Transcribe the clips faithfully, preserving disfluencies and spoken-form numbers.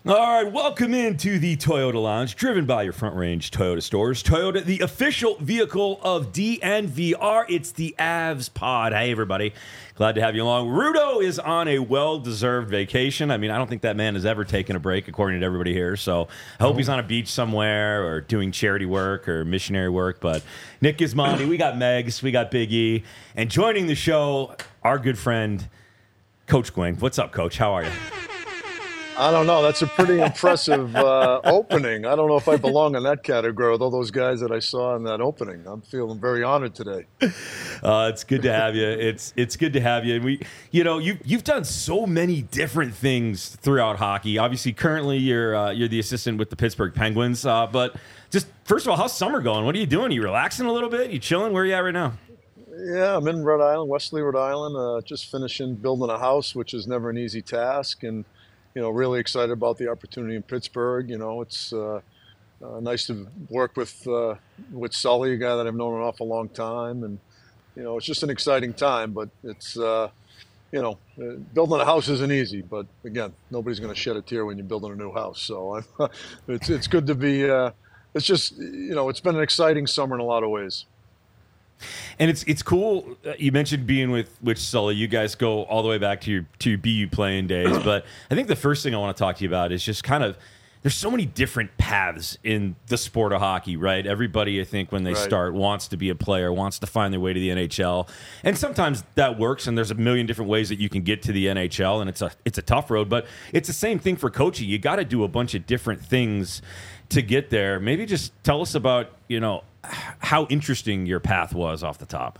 All right, welcome into the Toyota Lounge, driven by your Front Range Toyota stores. Toyota, the official vehicle of D N V R. It's the Avs Pod. Hey, everybody. Glad to have you along. Rudo is on a well-deserved vacation. I mean, I don't think that man has ever taken a break, according to everybody here. So I hope he's on a beach somewhere or doing charity work or missionary work. But Nick Gismondi, we got Megs, we got Big E. And joining the show, our good friend, Coach Gwynn. What's up, Coach? How are you? I don't know. That's a pretty impressive uh, opening. I don't know if I belong in that category with all those guys that I saw in that opening. I'm feeling very honored today. Uh, it's good to have you. It's it's good to have you. And we, you know, you you've done so many different things throughout hockey. Obviously, currently you're uh, you're the assistant with the Pittsburgh Penguins. Uh, but just first of all, how's summer going? What are you doing? Are you relaxing a little bit? You chilling? Where are you at right now? Yeah, I'm in Rhode Island, Wesley, Rhode Island. Uh, just finishing building a house, which is never an easy task, and you know, really excited about the opportunity in Pittsburgh. You know, it's uh, uh, nice to work with uh, with Sully, a guy that I've known an awful long time, and you know, it's just an exciting time. But it's uh, you know, uh, building a house isn't easy. But again, nobody's going to shed a tear when you're building a new house. So I'm, it's it's good to be. Uh, it's just you know, it's been an exciting summer in a lot of ways. And it's it's cool. You mentioned being with with Sully. You guys go all the way back to your to your B U playing days. But I think the first thing I want to talk to you about is just kind of there's so many different paths in the sport of hockey, right? Everybody, I think, when they Right. start, wants to be a player, wants to find their way to the N H L, and sometimes that works. And there's a million different ways that you can get to the N H L, and it's a it's a tough road. But it's the same thing for coaching. You got to do a bunch of different things to get there. Maybe just tell us about you know. how interesting your path was off the top.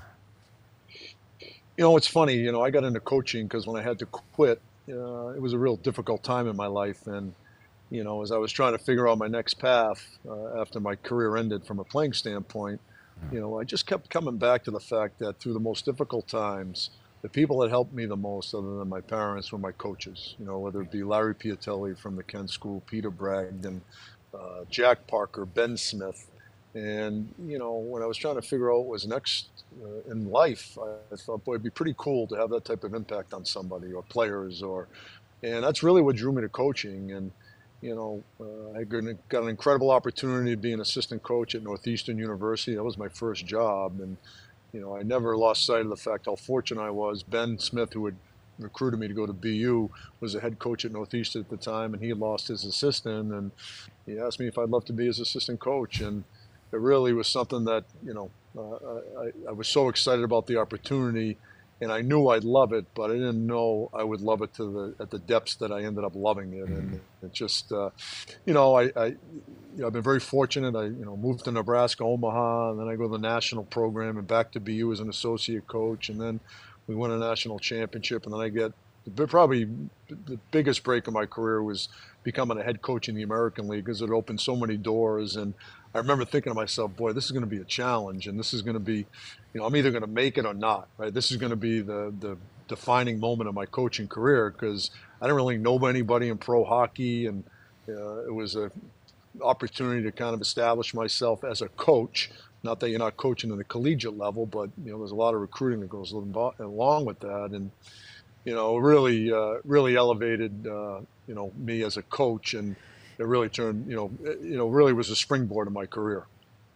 You know, it's funny, you know, I got into coaching because when I had to quit, uh, it was a real difficult time in my life. And, you know, as I was trying to figure out my next path uh, after my career ended from a playing standpoint, you know, I just kept coming back to the fact that through the most difficult times, the people that helped me the most, other than my parents, were my coaches, you know, whether it be Larry Piatelli from the Kent School, Peter Bragdon, uh, Jack Parker, Ben Smith. And, you know, when I was trying to figure out what was next uh, in life, I, I thought, boy, it'd be pretty cool to have that type of impact on somebody or players. or, And that's really what drew me to coaching. And, you know, uh, I got an incredible opportunity to be an assistant coach at Northeastern University. That was my first job. And, you know, I never lost sight of the fact how fortunate I was. Ben Smith, who had recruited me to go to B U, was a head coach at Northeastern at the time, and he had lost his assistant. And he asked me if I'd love to be his assistant coach. And it really was something that, you know, uh, I, I was so excited about the opportunity, and I knew I'd love it, but I didn't know I would love it to the at the depths that I ended up loving it. And it just, uh, you know, I, I, you know, I've been very fortunate. I, you know, moved to Nebraska, Omaha, and then I go to the national program and back to B U as an associate coach, and then we win a national championship, and then I get probably the biggest break of my career was becoming a head coach in the American League, because it opened so many doors. And I remember thinking to myself, boy, this is going to be a challenge, and this is going to be, you know, I'm either going to make it or not, right? This is going to be the the defining moment of my coaching career, because I didn't really know anybody in pro hockey, and uh, it was an opportunity to kind of establish myself as a coach. Not that you're not coaching at the collegiate level, but, you know, there's a lot of recruiting that goes along with that. And, you know, really, uh, really elevated, uh, you know, me as a coach, and it really turned, you know, it, you know, really was a springboard of my career.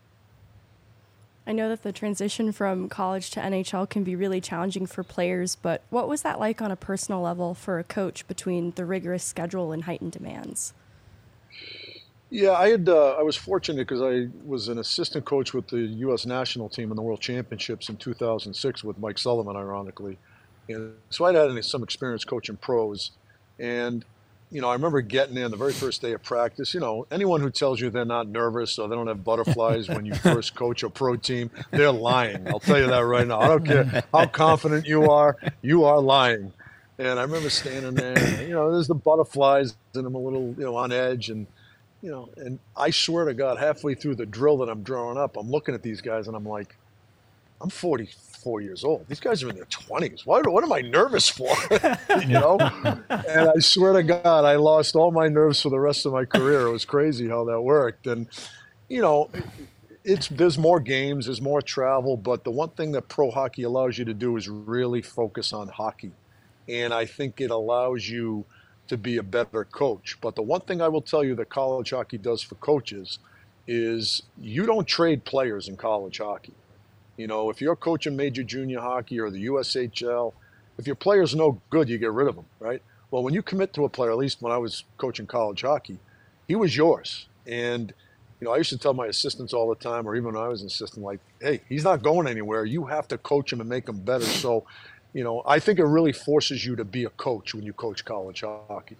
I know that the transition from college to N H L can be really challenging for players, but what was that like on a personal level for a coach between the rigorous schedule and heightened demands? Yeah, I had, uh, I was fortunate because I was an assistant coach with the U S national team in the World Championships in two thousand six with Mike Sullivan, ironically. And so I'd had some experience coaching pros. And, you know, I remember getting in the very first day of practice. You know, anyone who tells you they're not nervous or they don't have butterflies when you first coach a pro team, they're lying. I'll tell you that right now. I don't care how confident you are, you are lying. And I remember standing there, and, you know, there's the butterflies, and I'm a little, you know, on edge. And, you know, and I swear to God, halfway through the drill that I'm drawing up, I'm looking at these guys and I'm like, I'm forty-four years old. These guys are in their twenties. What, what am I nervous for? You know? And I swear to God, I lost all my nerves for the rest of my career. It was crazy how that worked. And, you know, it's there's more games, there's more travel, but the one thing that pro hockey allows you to do is really focus on hockey. And I think it allows you to be a better coach. But the one thing I will tell you that college hockey does for coaches is you don't trade players in college hockey. You know, if you're coaching major junior hockey or the U S H L, if your player's no good, you get rid of them, right? Well, when you commit to a player, at least when I was coaching college hockey, he was yours. And, you know, I used to tell my assistants all the time, or even when I was an assistant, like, hey, he's not going anywhere. You have to coach him and make him better. So, you know, I think it really forces you to be a coach when you coach college hockey.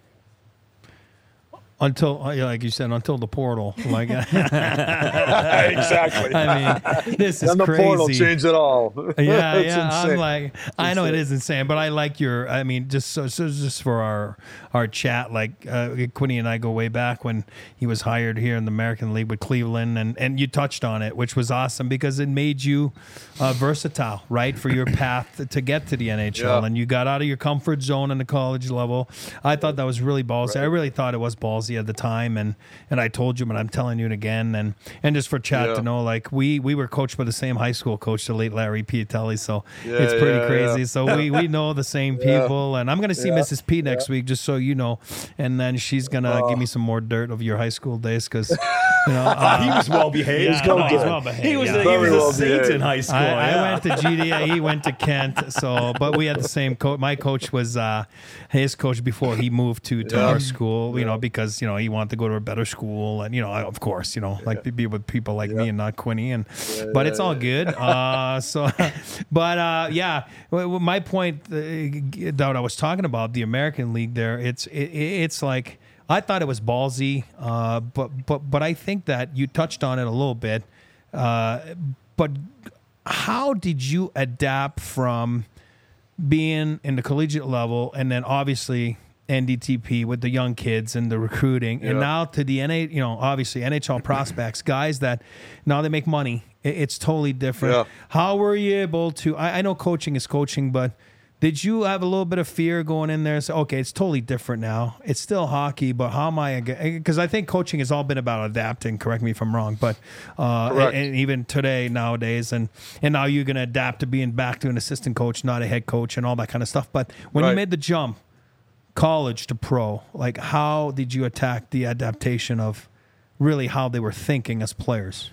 Until, like you said, until the portal. Like exactly. I mean, this is and the crazy. portal changed it all. Yeah, It's yeah. insane. I'm like, I know it is insane, but I like your. I mean, just so, so just for our our chat, like uh, Quinny and I go way back when he was hired here in the American League with Cleveland, and and you touched on it, which was awesome because it made you uh, versatile, right, for your path to get to the N H L, Yeah. and you got out of your comfort zone in the college level. I thought that was really ballsy. Right. I really thought it was ballsy at the time, and and I told you, but I'm telling you it again, and and just for chat Yeah. to know, like we we were coached by the same high school coach, the late Larry Piatelli, so Yeah, it's pretty yeah, crazy. yeah. So we we know the same Yeah. people, and I'm gonna see Yeah, Missus P next week, just so you know, and then she's gonna Oh. give me some more dirt of your high school days, because you know Uh, he uh, was well behaved. yeah, well no, he's behaved. well behaved. He was yeah. a, he Very was a well saint behaved. in high school. I, yeah. I went to G D A. He went to Kent. So, but we had the same coach. My coach was uh, his coach before he moved to, to Yeah. our school. You Yeah. know, because you know he wanted to go to a better school, and you know, of course, you know, like to be with people like me Yeah. and not Quinny. And but yeah, it's all good. Uh, so, but uh, yeah, w- w- my point uh, that I was talking about the American League. There, it's it, it's like. I thought it was ballsy, uh, but but but I think that you touched on it a little bit. Uh, but how did you adapt from being in the collegiate level and then obviously N D T P with the young kids and the recruiting, and Yeah. now to the N A, you know, obviously N H L prospects, guys that now they make money. It- It's totally different. Yeah. How were you able to? I, I know coaching is coaching, but did you have a little bit of fear going in there and say, okay, it's totally different now. It's still hockey, but how am I? Because I think coaching has all been about adapting. Correct me if I'm wrong, but uh, Correct. and, and even today nowadays, and and now you're going to adapt to being back to an assistant coach, not a head coach, and all that kind of stuff. But when you Right. made the jump, college to pro, like how did you attack the adaptation of really how they were thinking as players?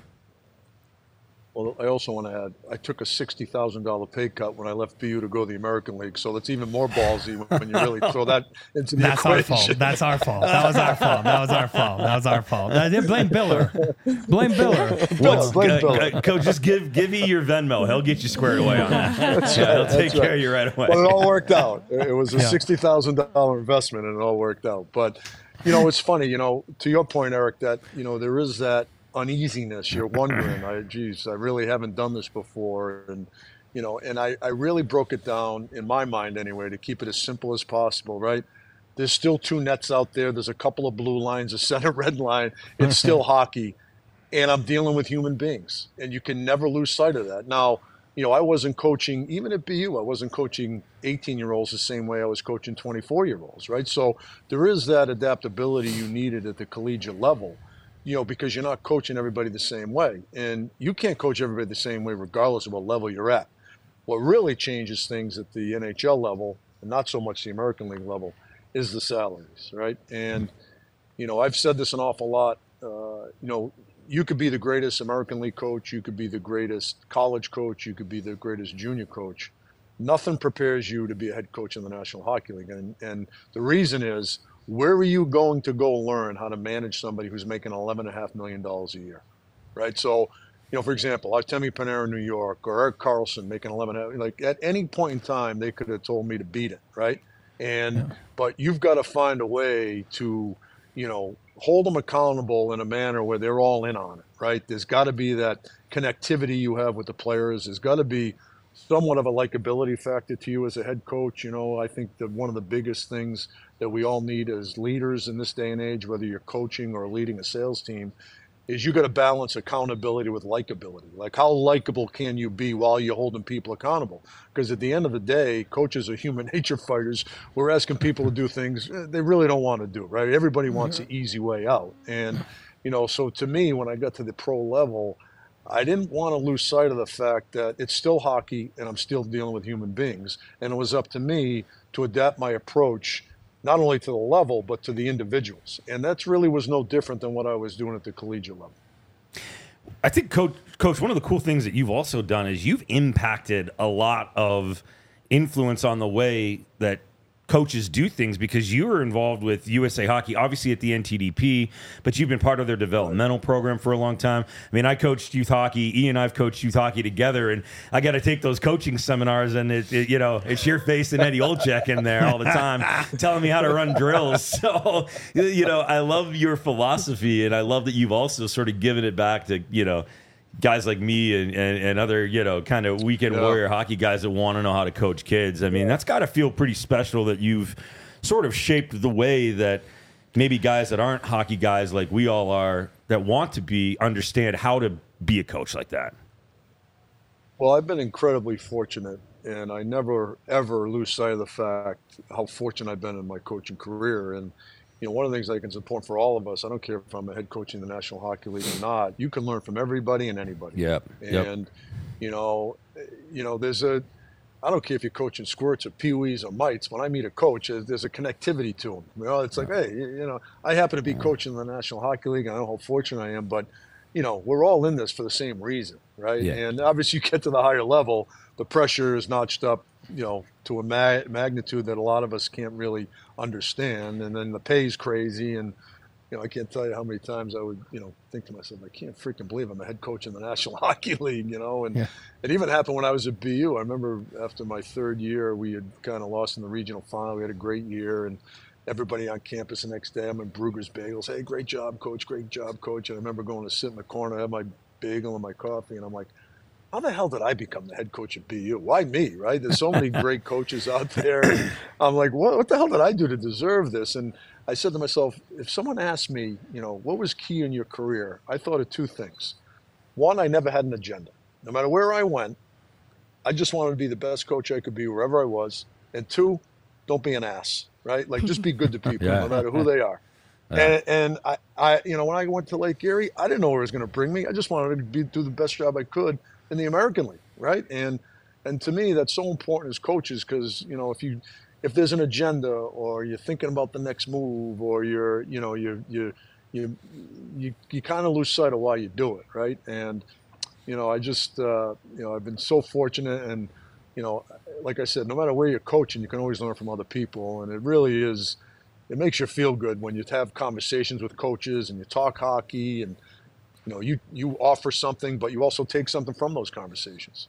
Well, I also want to add, I took a sixty thousand dollars pay cut when I left B U to go to the American League, so that's even more ballsy when you really throw that into the That's our equation. fault. That's our fault. That was our fault. That was our fault. That was our fault. Uh, Blame Biller. Blame Biller. What's, blame Uh, Bill. uh, Coach, just give give me your Venmo. He'll get you squared away on that. That's Yeah, right, he'll take that's care right. of you right away. But it all worked out. It was a Yeah. sixty thousand dollars investment, and it all worked out. But, you know, it's funny, you know, to your point, Eric, that, you know, there is that uneasiness. You're wondering, I, geez, I really haven't done this before. And, you know, and I, I really broke it down, in my mind anyway, to keep it as simple as possible, right? There's still two nets out there. There's a couple of blue lines, a center red line. It's still hockey. And I'm dealing with human beings. And you can never lose sight of that. Now, you know, I wasn't coaching, even at B U, I wasn't coaching eighteen-year-olds the same way I was coaching twenty-four-year-olds, right? So there is that adaptability you needed at the collegiate level, you know, because you're not coaching everybody the same way. And you can't coach everybody the same way regardless of what level you're at. What really changes things at the N H L level, and not so much the American League level, is the salaries, right? And, you know, I've said this an awful lot, uh, you know, you could be the greatest American League coach, you could be the greatest college coach, you could be the greatest junior coach. Nothing prepares you to be a head coach in the National Hockey League. And, and the reason is, where are you going to go learn how to manage somebody who's making eleven point five million dollars a year, right? So, you know, for example, Artemi Panarin in New York or Eric Carlson making eleven, like at any point in time, they could have told me to beat it, right? And, yeah. But you've got to find a way to, you know, hold them accountable in a manner where they're all in on it, right? There's got to be that connectivity you have with the players. There's got to be somewhat of a likability factor to you as a head coach. You know, I think that one of the biggest things that we all need as leaders in this day and age, whether you're coaching or leading a sales team, is you got to balance accountability with likability. Like, how likable can you be while you're holding people accountable? Because at the end of the day, coaches are human nature fighters. We're asking people to do things they really don't want to do, right? Everybody wants the easy way out. And, you know, so to me, when I got to the pro level, I didn't want to lose sight of the fact that it's still hockey and I'm still dealing with human beings. And it was up to me to adapt my approach, not only to the level, but to the individuals. And that's really was no different than what I was doing at the collegiate level. I think, Coach, Coach, one of the cool things that you've also done is you've impacted a lot of influence on the way that coaches do things, because you were involved with U S A Hockey, obviously at the N T D P, but you've been part of their developmental program for a long time. I mean, I coached youth hockey. Ian and I've coached youth hockey together, and I got to take those coaching seminars, and it, it, you know, it's your face and Eddie Olczyk in there all the time telling me how to run drills. So, you know, I love your philosophy, and I love that you've also sort of given it back to, you know, guys like me and, and, and other, you know, kind of weekend yeah. warrior hockey guys that want to know how to coach kids. I mean, yeah. that's got to feel pretty special that you've sort of shaped the way that maybe guys that aren't hockey guys like we all are, that want to be, understand how to be a coach like that. Well, I've been incredibly fortunate, and I never, ever lose sight of the fact how fortunate I've been in my coaching career. And you know, one of the things I think is important for all of us, I don't care if I'm a head coach in the National Hockey League or not, you can learn from everybody and anybody. Yep. Yep. And, you know, you know, there's a, I don't care if you're coaching squirts or peewees or mites. When I meet a coach, there's a connectivity to them. You know, it's like, hey, you know, I happen to be coaching the National Hockey League, and I know how fortunate I am, but, you know, we're all in this for the same reason, right? Yeah. And obviously you get to the higher level, the pressure is notched up, you know, to a ma- magnitude that a lot of us can't really understand. And then the pay's crazy. And, you know, I can't tell you how many times I would, you know, think to myself, I can't freaking believe I'm a head coach in the National Hockey League, you know. And yeah. it even happened when I was at B U. I remember after my third year, we had kind of lost in the regional final. We had a great year, and everybody on campus the next day, I'm in Brugger's Bagels. Hey, great job, coach. Great job, coach. And I remember going to sit in the corner, have my bagel and my coffee, and I'm like, how the hell did I become the head coach at B U? Why me, right? There's so many great coaches out there. I'm like, what, what the hell did I do to deserve this? And I said to myself, if someone asked me, you know, what was key in your career? I thought of two things. One, I never had an agenda. No matter where I went, I just wanted to be the best coach I could be wherever I was. And two, don't be an ass, right? Like, just be good to people, yeah. no matter who they are. Yeah. And, and I, I, you know, when I went to Lake Erie, I didn't know where it was going to bring me. I just wanted to be, do the best job I could in the American League, right? And and to me, that's so important as coaches, because, you know, if you if there's an agenda, or you're thinking about the next move, or you're, you know, you you you you, you kind of lose sight of why you do it, right? And, you know, I just, uh, you know, I've been so fortunate, and, you know, like I said, no matter where you're coaching, you can always learn from other people, and it really is, it makes you feel good when you have conversations with coaches and you talk hockey, and you know, you, you offer something, but you also take something from those conversations.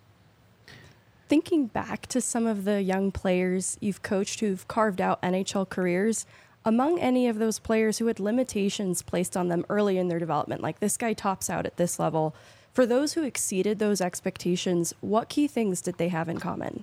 Thinking back to some of the young players you've coached who've carved out N H L careers, among any of those players who had limitations placed on them early in their development, like this guy tops out at this level, for those who exceeded those expectations, what key things did they have in common?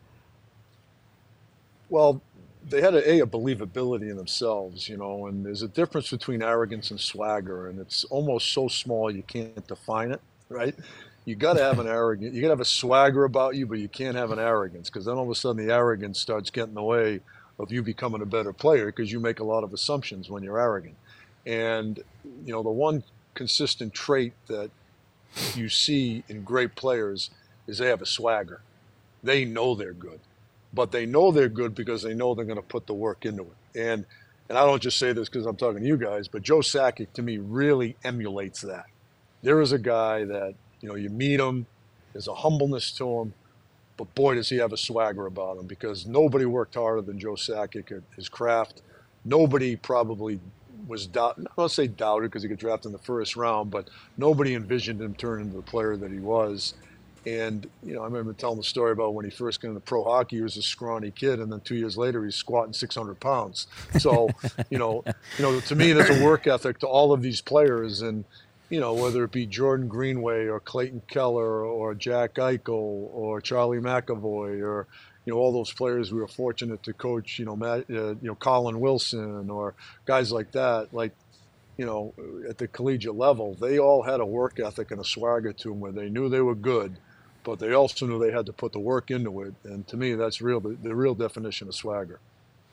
Well, they had a, a, a believability in themselves, you know, and there's a difference between arrogance and swagger, and it's almost so small you can't define it, right? You got to have an arrogance, you got to have a swagger about you, but you can't have an arrogance, because then all of a sudden the arrogance starts getting in the way of you becoming a better player, because you make a lot of assumptions when you're arrogant. And, you know, the one consistent trait that you see in great players is they have a swagger. They know they're good. But they know they're good because they know they're going to put the work into it. And and I don't just say this because I'm talking to you guys, but Joe Sakic, to me, really emulates that. There is a guy that, you know, you meet him, there's a humbleness to him, but boy, does he have a swagger about him, because nobody worked harder than Joe Sakic at his craft. Nobody probably was, doubt, I don't say doubted because he got drafted in the first round, but nobody envisioned him turning into the player that he was. And, you know, I remember telling the story about when he first got into pro hockey, he was a scrawny kid, and then two years later, he's squatting six hundred pounds. So, you know, you know, to me, there's a work ethic to all of these players. And, you know, whether it be Jordan Greenway or Clayton Keller or Jack Eichel or Charlie McAvoy or, you know, all those players we were fortunate to coach, you know, Matt, uh, you know, Colin Wilson or guys like that, like, you know, at the collegiate level, they all had a work ethic and a swagger to them where they knew they were good, but they also knew they had to put the work into it. And to me, that's real, the, the real definition of swagger.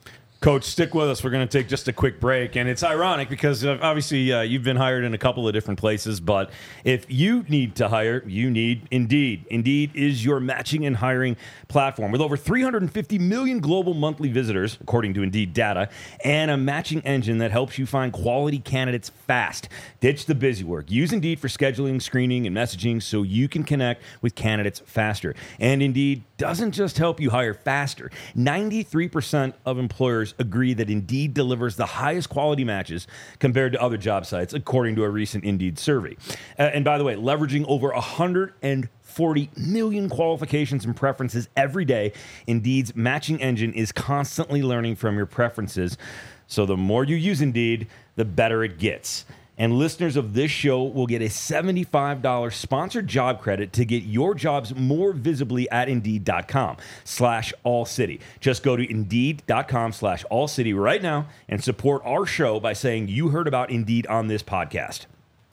Coach, stick with us. We're going to take just a quick break. And it's ironic because uh, obviously uh, you've been hired in a couple of different places. But if you need to hire, you need Indeed. Indeed is your matching and hiring platform with over three hundred fifty million global monthly visitors, according to Indeed data, and a matching engine that helps you find quality candidates fast. Ditch the busy work. Use Indeed for scheduling, screening, and messaging so you can connect with candidates faster. And Indeed doesn't just help you hire faster. ninety-three percent of employers agree that Indeed delivers the highest quality matches compared to other job sites, according to a recent Indeed survey. Uh, and by the way, leveraging over one hundred forty million qualifications and preferences every day, Indeed's matching engine is constantly learning from your preferences. So the more you use Indeed, the better it gets. And listeners of this show will get a seventy-five dollars sponsored job credit to get your jobs more visibly at Indeed.com slash All City. Just go to Indeed.com slash All City right now and support our show by saying you heard about Indeed on this podcast.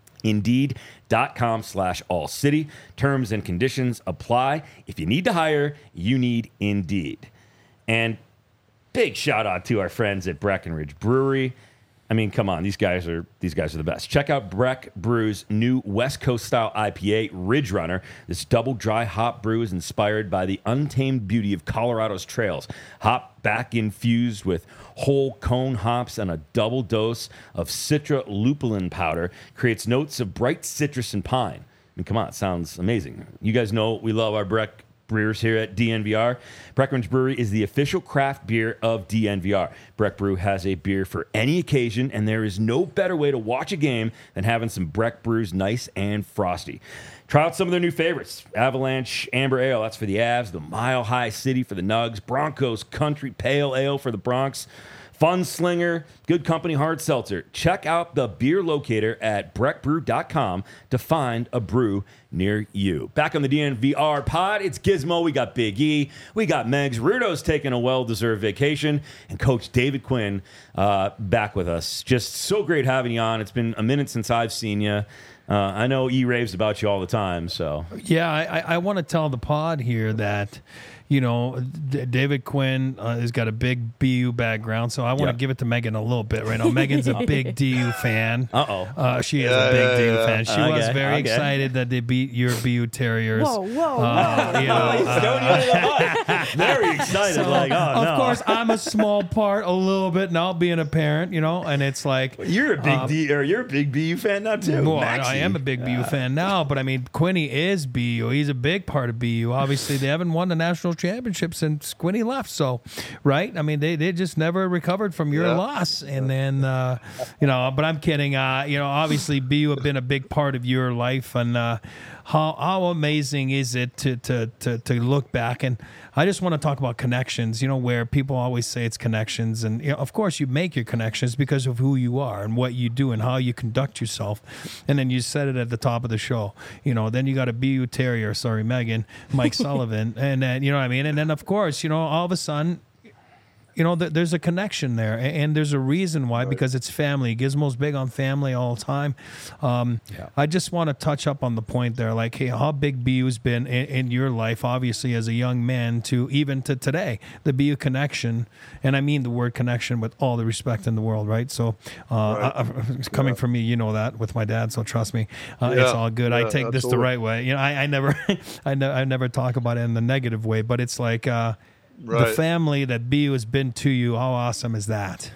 Indeed.com slash All City. Terms and conditions apply. If you need to hire, you need Indeed. And big shout out to our friends at Breckenridge Brewery. I mean, come on, these guys are these guys are the best. Check out Breck Brew's new West Coast style I P A, Ridge Runner. This double dry hop brew is inspired by the untamed beauty of Colorado's trails. Hop back infused with whole cone hops and a double dose of Citra lupulin powder creates notes of bright citrus and pine. I mean, come on, it sounds amazing. You guys know we love our Breck Brewers here at D N V R. Breckenridge Brewery is the official craft beer of D N V R. Breck Brew has a beer for any occasion, and there is no better way to watch a game than having some Breck Brews nice and frosty. Try out some of their new favorites. Avalanche Amber Ale, that's for the Avs. The Mile High City for the Nugs. Broncos Country Pale Ale for the Bronx. Fun Slinger, Good Company Hard Seltzer. Check out the beer locator at breck brew dot com to find a brew near you. Back on the D N V R pod, it's Gizmo. We got Big E. We got Megs. Rudo's taking a well-deserved vacation. And Coach David Quinn uh, back with us. Just so great having you on. It's been a minute since I've seen you. Uh, I know E raves about you all the time. So yeah, I, I want to tell the pod here that, you know, D- David Quinn uh, has got a big B U background, so I want to Yep. give it to Megan a little bit right now. Megan's a big D U fan. Uh-oh. Uh, she is Yeah, a big yeah, D U yeah. fan. She was Okay, very okay. excited that they beat your B U Terriers. Whoa, whoa, Uh, whoa. you know, He's uh, throwing you under the bus. Very excited. so, like, oh, of no. course, I'm a small part, a little bit now, being a parent, you know, and it's like You're a big D, or you're a big B U fan now too. Well, I, Maxie. I am a big B U fan now, but I mean, Quinny is B U. He's a big part of B U. Obviously, they haven't won the national championship since Quinny left. So, right? I mean, they, they just never recovered from your Yeah. loss. And then, uh, you know, but I'm kidding. Uh, you know, obviously, B U have been a big part of your life. And uh, how how amazing is it to, to, to, to look back? And I just want to talk about connections, you know, where people always say it's connections. And, you know, of course, you make your connections because of who you are and what you do and how you conduct yourself. And then you said it at the top of the show. You know, then you got a B U Terrier, sorry, Megan, Mike Sullivan. And then, you know what I mean? And then, of course, you know, all of a sudden, you know, th- there's a connection there, a- and there's a reason why, because it's family. Gizmo's big on family all the time. Um, Yeah. I just want to touch up on the point there, like, hey, how big B U's been in, in your life, obviously, as a young man, to even to today, the B U connection, and I mean the word connection with all the respect in the world, right? So, uh, Right. I, I, coming Yeah. from me, you know that with my dad, so trust me, uh, Yeah. it's all good. I Yeah, take this the absolutely. right way. You know, I, I never, I, ne- I never talk about it in the negative way, but it's like. Uh, The Right. family that B U has been to you, how awesome is that?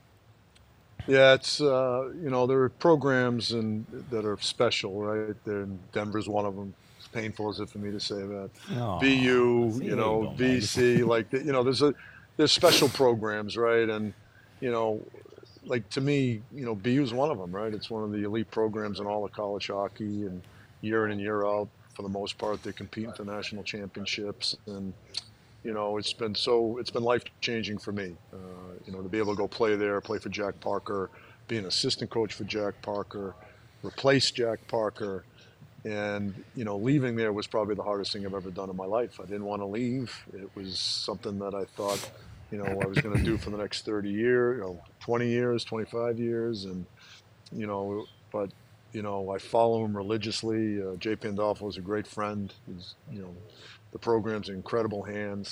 Yeah, it's uh, you know, there are programs and that are special, right? There, Denver's one of them. As painful as it for me to say that. Aw, B U, see, you there know, you go, V C, like you know, there's a there's special programs, right? And you know, like to me, you know, B U is one of them, right? It's one of the elite programs in all of college hockey, and year in and year out, for the most part, they're competing for national championships, and you know, it's been so it's been life changing for me. Uh, you know, to be able to go play there, play for Jack Parker, be an assistant coach for Jack Parker, replace Jack Parker, and you know, leaving there was probably the hardest thing I've ever done in my life. I didn't want to leave. It was something that I thought, you know, I was going to do for the next thirty years, you know, twenty years, twenty-five years, and you know, but you know, I follow him religiously. Uh, Jay Pandolfo is a great friend. He's, you know, the program's in incredible hands.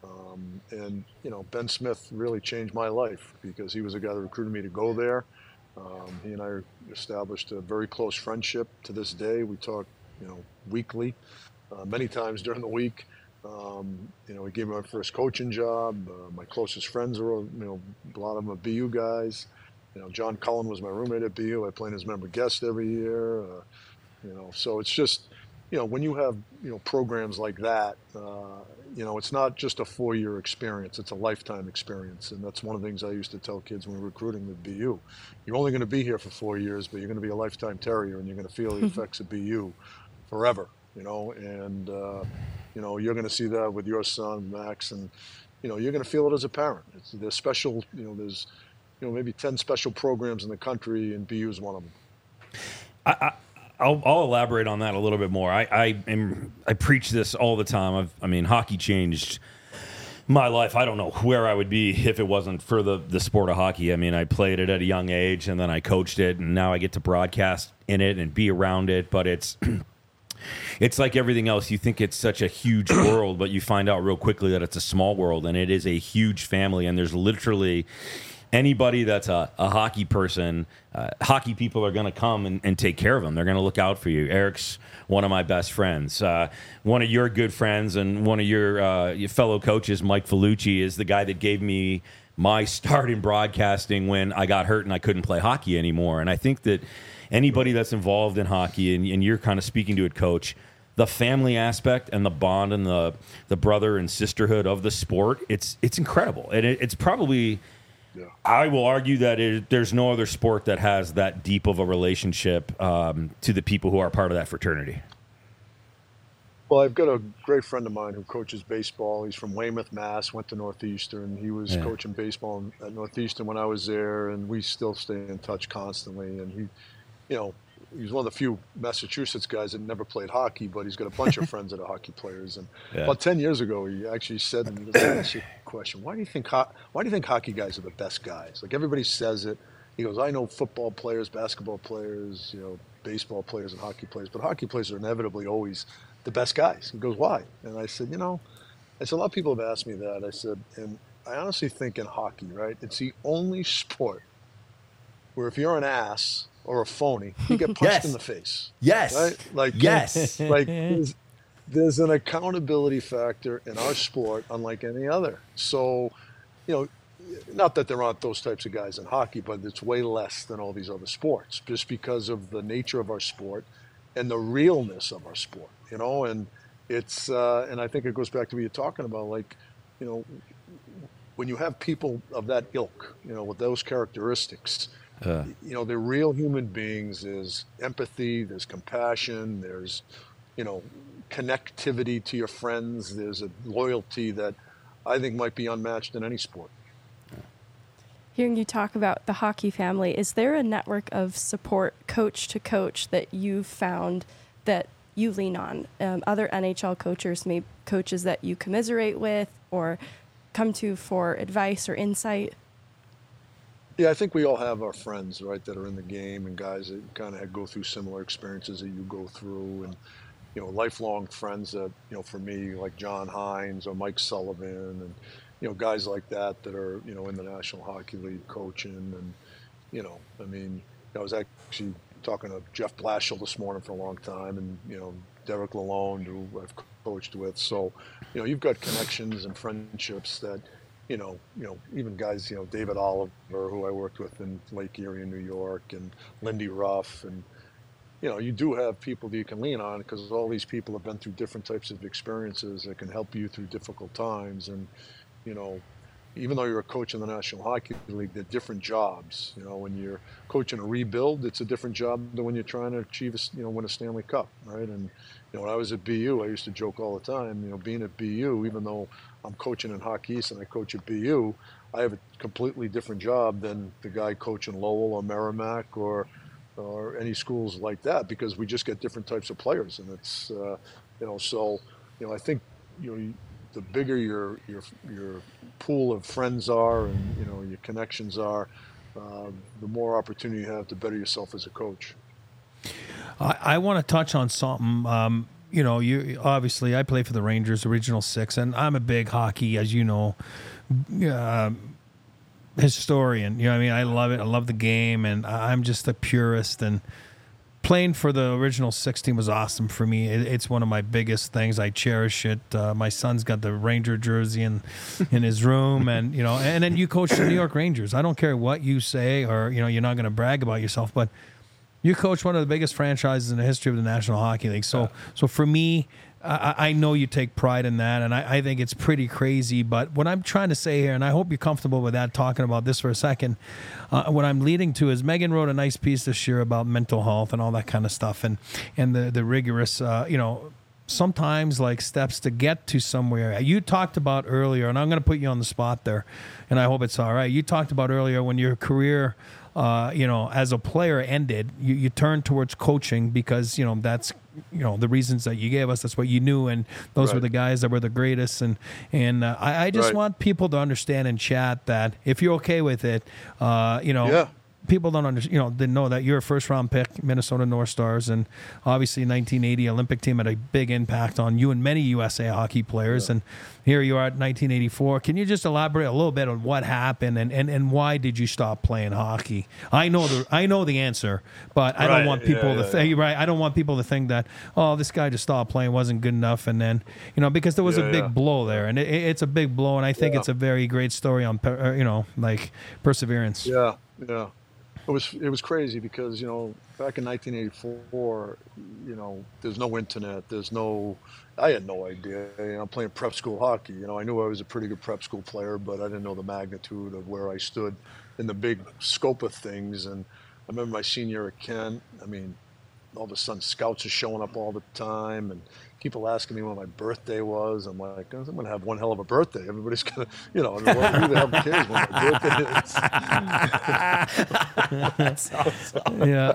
Um, and, you know, Ben Smith really changed my life because he was the guy that recruited me to go there. Um, he and I established a very close friendship to this day. We talk, you know, weekly, uh, many times during the week. Um, you know, he gave me my first coaching job. Uh, my closest friends are, you know, a lot of them are B U guys. You know, John Cullen was my roommate at B U. I played as member guest every year. Uh, you know, so it's just, you know, when you have, you know, programs like that, uh, you know, it's not just a four-year experience. It's a lifetime experience. And that's one of the things I used to tell kids when we were recruiting at B U. You're only going to be here for four years, but you're going to be a lifetime Terrier, and you're going to feel the effects of B U forever, you know. And, uh, you know, you're going to see that with your son, Max, and, you know, you're going to feel it as a parent. It's, there's special, you know, there's, you know, maybe ten special programs in the country, and B U is one of them. I, I, I'll, I'll elaborate on that a little bit more. I, I am I preach this all the time. I've, I mean, hockey changed my life. I don't know where I would be if it wasn't for the, the sport of hockey. I mean, I played it at a young age, and then I coached it, and now I get to broadcast in it and be around it. But it's it's like everything else. You think it's such a huge world, but you find out real quickly that it's a small world, and it is a huge family. And there's literally anybody that's a, a hockey person, uh, hockey people are going to come and, and take care of them. They're going to look out for you. Eric's one of my best friends. Uh, one of your good friends and one of your, uh, your fellow coaches, Mike Felucci, is the guy that gave me my start in broadcasting when I got hurt and I couldn't play hockey anymore. And I think that anybody that's involved in hockey, and, and you're kind of speaking to it, Coach, the family aspect and the bond and the, the brother and sisterhood of the sport, it's, it's incredible. And it, it's probably... Yeah. I will argue that it, there's no other sport that has that deep of a relationship um, to the people who are part of that fraternity. Well, I've got a great friend of mine who coaches baseball. He's from Weymouth, Mass, went to Northeastern. He was yeah. coaching baseball at Northeastern when I was there, and we still stay in touch constantly. And he, you know, he's one of the few Massachusetts guys that never played hockey, but he's got a bunch of friends that are hockey players. And yeah. about ten years ago, he actually said to me, he goes, "Let me ask you a question. Why do you think ho- why do you think hockey guys are the best guys? Like, everybody says it." He goes, "I know football players, basketball players, you know, baseball players and hockey players, but hockey players are inevitably always the best guys." He goes, "Why?" And I said, you know, I said, a lot of people have asked me that. I said, and I honestly think in hockey, right, it's the only sport where if you're an ass or a phony, you get punched yes. in the face. Yes. Right? Like, yes. Like, there's, there's an accountability factor in our sport unlike any other. So, you know, not that there aren't those types of guys in hockey, but it's way less than all these other sports just because of the nature of our sport and the realness of our sport, you know, and it's, uh, and I think it goes back to what you're talking about, like, you know, when you have people of that ilk, you know, with those characteristics, Uh. you know, they're real human beings. There's empathy, there's compassion, there's, you know, connectivity to your friends. There's a loyalty that I think might be unmatched in any sport. Hearing you talk about the hockey family, is there a network of support coach to coach that you've found that you lean on? Um, other N H L coaches, maybe coaches that you commiserate with or come to for advice or insight? Yeah, I think we all have our friends, right, that are in the game and guys that kind of go through similar experiences that you go through, and, you know, lifelong friends that, you know, for me, like John Hines or Mike Sullivan and, you know, guys like that that are, you know, in the National Hockey League coaching. And, you know, I mean, I was actually talking to Jeff Blashill this morning for a long time, and, you know, Derek Lalonde, who I've coached with. So, you know, you've got connections and friendships that, you know, you know, even guys, you know, David Oliver, who I worked with in Lake Erie in New York, and Lindy Ruff, and, you know, you do have people that you can lean on because all these people have been through different types of experiences that can help you through difficult times. And, you know, even though you're a coach in the National Hockey League, they're different jobs. You know, when you're coaching a rebuild, it's a different job than when you're trying to achieve, a, you know, win a Stanley Cup, right? And, you know, when I was at B U, I used to joke all the time, you know, being at B U, even though I'm coaching in Hockey East and I coach at B U, I have a completely different job than the guy coaching Lowell or Merrimack or or any schools like that, because we just get different types of players. And it's, uh, you know, so, you know, I think, you know, the bigger your your your pool of friends are and, you know, your connections are, uh, the more opportunity you have to better yourself as a coach. I, I want to touch on something. Um, you know, you obviously I play for the Rangers, original six, and I'm a big hockey, as you know, uh, historian. You know what I mean? I love it. I love the game, and I'm just a purist. And playing for the original six team was awesome for me. It, it's one of my biggest things. I cherish it. Uh, my son's got the Ranger jersey in in his room, and you know, and then you coach the New York Rangers. I don't care what you say, or you know, you're not going to brag about yourself, but you coach one of the biggest franchises in the history of the National Hockey League. So, so for me, I, I know you take pride in that, and I, I think it's pretty crazy. But what I'm trying to say here, and I hope you're comfortable with that, talking about this for a second, uh, what I'm leading to is Megan wrote a nice piece this year about mental health and all that kind of stuff, and and the the rigorous, uh, you know, sometimes like steps to get to somewhere. You talked about earlier, and I'm going to put you on the spot there, and I hope it's all right. You talked about earlier when your career, uh, you know, as a player ended, you, you turned towards coaching because, you know, that's, you know, the reasons that you gave us, that's what you knew. And those Right. were the guys that were the greatest. And, and uh, I, I just Right. want people to understand in chat that if you're okay with it, uh, you know, Yeah. people don't understand, you know, didn't know that you're a first round pick, Minnesota North Stars, and obviously nineteen eighty Olympic team had a big impact on you and many U S A hockey players. Yeah. And here you are at nineteen eighty-four. Can you just elaborate a little bit on what happened and, and, and why did you stop playing hockey? I know the I know the answer, but I don't Right. want people Yeah, to yeah, think right. I don't want people to think that, oh, this guy just stopped playing, wasn't good enough, and then, you know, because there was Yeah, a big yeah. blow there, and it, it's a big blow, and I think Yeah. it's a very great story on per- uh, you know, like perseverance. Yeah, yeah. It was it was crazy because, you know, back in nineteen eighty-four, you know, there's no internet, there's no, I had no idea. You know, I'm playing prep school hockey. You know, I knew I was a pretty good prep school player, but I didn't know the magnitude of where I stood in the big scope of things. And I remember my senior year at Kent. I mean, all of a sudden scouts are showing up all the time and people asking me when my birthday was. I'm like, I'm going to have one hell of a birthday. Everybody's going to, you know, I mean, well, who the hell cares when my birthday is? That's awesome. Yeah.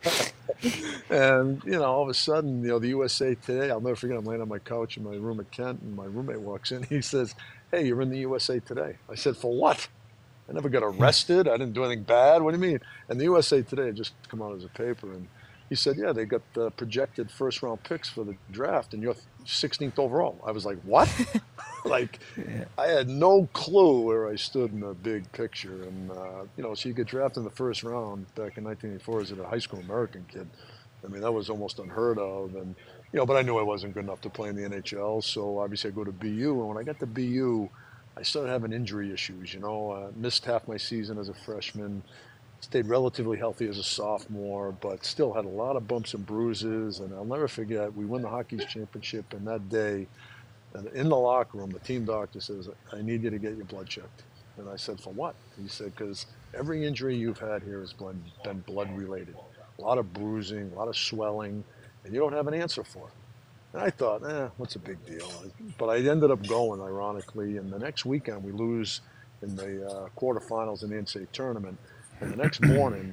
And, you know, all of a sudden, you know, the U S A Today, I'll never forget, I'm laying on my couch in my room at Kent, and my roommate walks in. He says, hey, you're in the U S A Today. I said, for what? I never got arrested. I didn't do anything bad. What do you mean? And the U S A Today had just come out as a paper. And he said, yeah, they got the projected first round picks for the draft, and you're sixteenth overall. I was like, what? Like, Yeah. I had no clue where I stood in the big picture. And, uh, you know, so you get drafted in the first round back in nineteen eighty-four as a high school American kid. I mean, that was almost unheard of. And, you know, but I knew I wasn't good enough to play in the N H L. So obviously I go to B U. And when I got to B U, I started having injury issues. You know, uh, missed half my season as a freshman, stayed relatively healthy as a sophomore, but still had a lot of bumps and bruises. And I'll never forget, we win the Hockey's championship, and that day, and in the locker room, the team doctor says, I need you to get your blood checked. And I said, for what? He said, because every injury you've had here has been, been blood related. A lot of bruising, a lot of swelling, and you don't have an answer for it. And I thought, eh, what's a big deal? But I ended up going, ironically, and the next weekend we lose in the uh, quarterfinals in the N C A A tournament. And the next morning,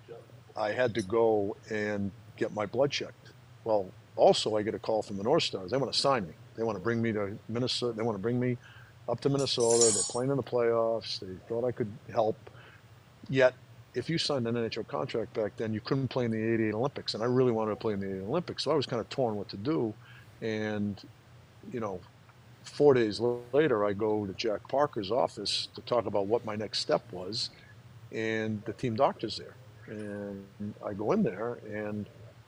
I had to go and get my blood checked. Well, also I get a call from the North Stars. They want to sign me. They want to bring me to Minnesota. They want to bring me up to Minnesota. They're playing in the playoffs. They thought I could help. Yet, if you signed an N H L contract back then, you couldn't play in the eighty-eight Olympics. And I really wanted to play in the eighty-eight Olympics. So I was kind of torn what to do. And, you know, four days later, I go to Jack Parker's office to talk about what my next step was. And the team doctor's there. And I go in there, and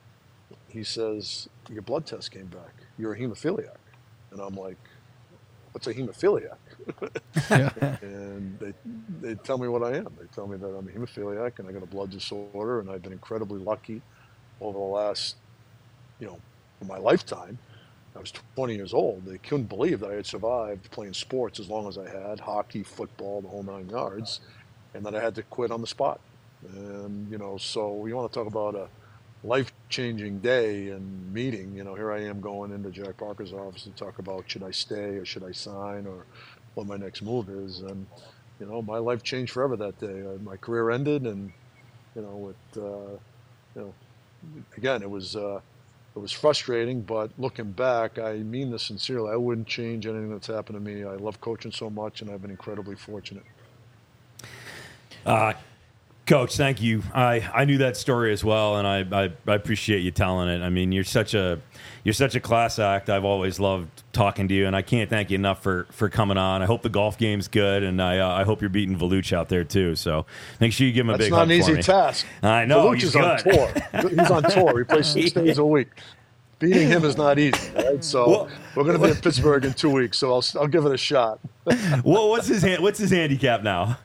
he says, your blood test came back. You're a hemophiliac. And I'm like, what's a hemophiliac? Yeah. And they, they tell me what I am. They tell me that I'm a hemophiliac and I got a blood disorder, and I've been incredibly lucky over the last, you know, in my lifetime. I was twenty years old. They couldn't believe that I had survived playing sports as long as I had, hockey, football, the whole nine yards, and that I had to quit on the spot. And, you know, so you want to talk about a life-changing day and meeting. You know, here I am going into Jack Parker's office to talk about should I stay or should I sign or what my next move is. And, you know, my life changed forever that day. Uh, my career ended, and, you know, it, uh, you know, again, it was uh, it was frustrating, but looking back, I mean this sincerely. I wouldn't change anything that's happened to me. I love coaching so much, and I've been incredibly fortunate. Uh, Coach, thank you. I, I knew that story as well, and I, I, I appreciate you telling it. I mean, you're such a you're such a class act. I've always loved talking to you, and I can't thank you enough for, for coming on. I hope the golf game's good, and I uh, I hope you're beating Voluch out there too. So make sure you give him a That's big not hug an for easy me. task. I know. Voluch He's is on good. tour. He's on tour. He plays six days a week. Beating him is not easy, right? So Well, we're going to be in Pittsburgh in two weeks, so I'll I'll give it a shot. Well, what's his hand, what's his handicap now?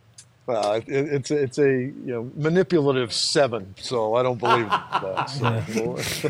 Uh, it, it's a, it's a you know manipulative seven, so I don't believe that. So,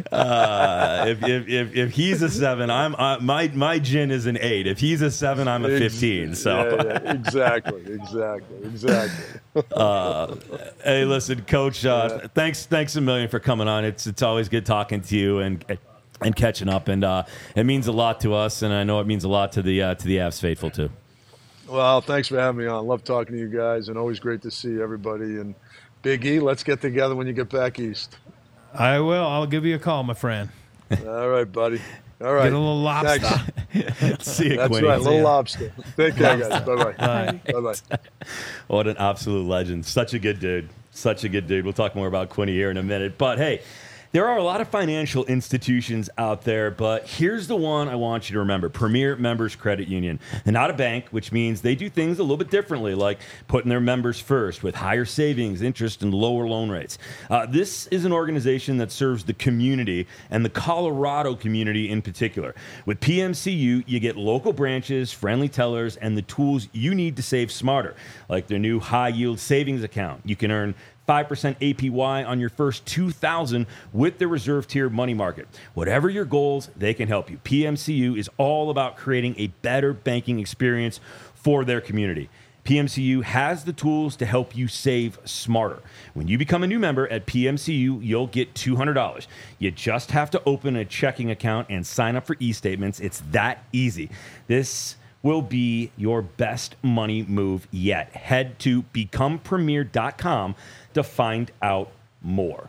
Uh, if, if if if he's a seven, I'm uh, my my gin is an eight. If he's a seven, I'm a fifteen. So yeah, yeah, exactly, exactly, exactly. uh, hey, listen, Coach. Uh, Yeah. Thanks thanks a million for coming on. It's it's always good talking to you and and catching up, and uh, it means a lot to us, and I know it means a lot to the uh, to the Avs faithful too. Well, thanks for having me on. Love talking to you guys, and always great to see everybody. And Big E, let's get together when you get back east. I will. I'll give you a call, my friend. All right, buddy. All right. Get a little lobster. Thanks. See you, That's Quinny. right, little ya. lobster. Take care, guys. Bye-bye. Bye. Bye-bye. What an absolute legend. Such a good dude. Such a good dude. We'll talk more about Quinny here in a minute. But hey, there are a lot of financial institutions out there, but here's the one I want you to remember. Premier Members Credit Union. They're not a bank, which means they do things a little bit differently, like putting their members first with higher savings, interest, and lower loan rates. Uh, this is an organization that serves the community and the Colorado community in particular. With P M C U, you get local branches, friendly tellers, and the tools you need to save smarter, like their new high-yield savings account. You can earn five percent A P Y on your first two thousand dollars with the reserve tier money market. Whatever your goals, they can help you. P M C U is all about creating a better banking experience for their community. P M C U has the tools to help you save smarter. When you become a new member at P M C U, you'll get two hundred dollars. You just have to open a checking account and sign up for e-statements. It's that easy. This will be your best money move yet. Head to become premier dot com to find out more.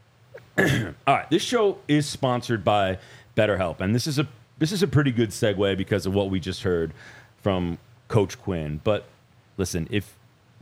All right, this show is sponsored by BetterHelp, and this is a this is a pretty good segue because of what we just heard from Coach Quinn. But listen, if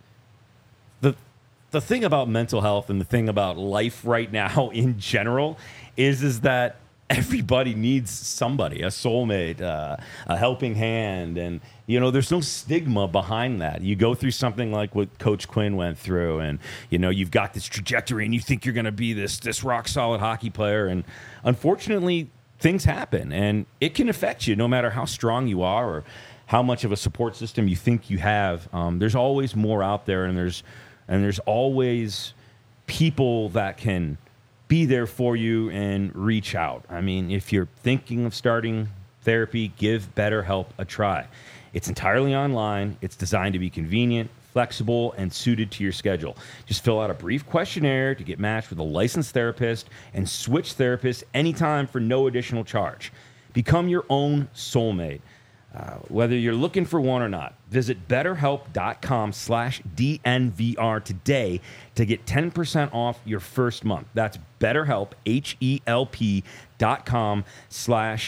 the the thing about mental health and the thing about life right now in general is is that everybody needs somebody, a soulmate, uh, a helping hand. And, you know, there's no stigma behind that. You go through something like what Coach Quinn went through, and, you know, you've got this trajectory and you think you're going to be this, this rock solid hockey player. And unfortunately, things happen and it can affect you no matter how strong you are or how much of a support system you think you have. Um, there's always more out there, and there's, and there's always people that can be there for you and reach out. I mean, if you're thinking of starting therapy, give BetterHelp a try. It's entirely online. It's designed to be convenient, flexible, and suited to your schedule. Just fill out a brief questionnaire to get matched with a licensed therapist and switch therapists anytime for no additional charge. Become your own soulmate. Uh, whether you're looking for one or not, visit betterhelp.com slash DNVR today to get ten percent off your first month. That's betterhelp, H-E-L-P dot com slash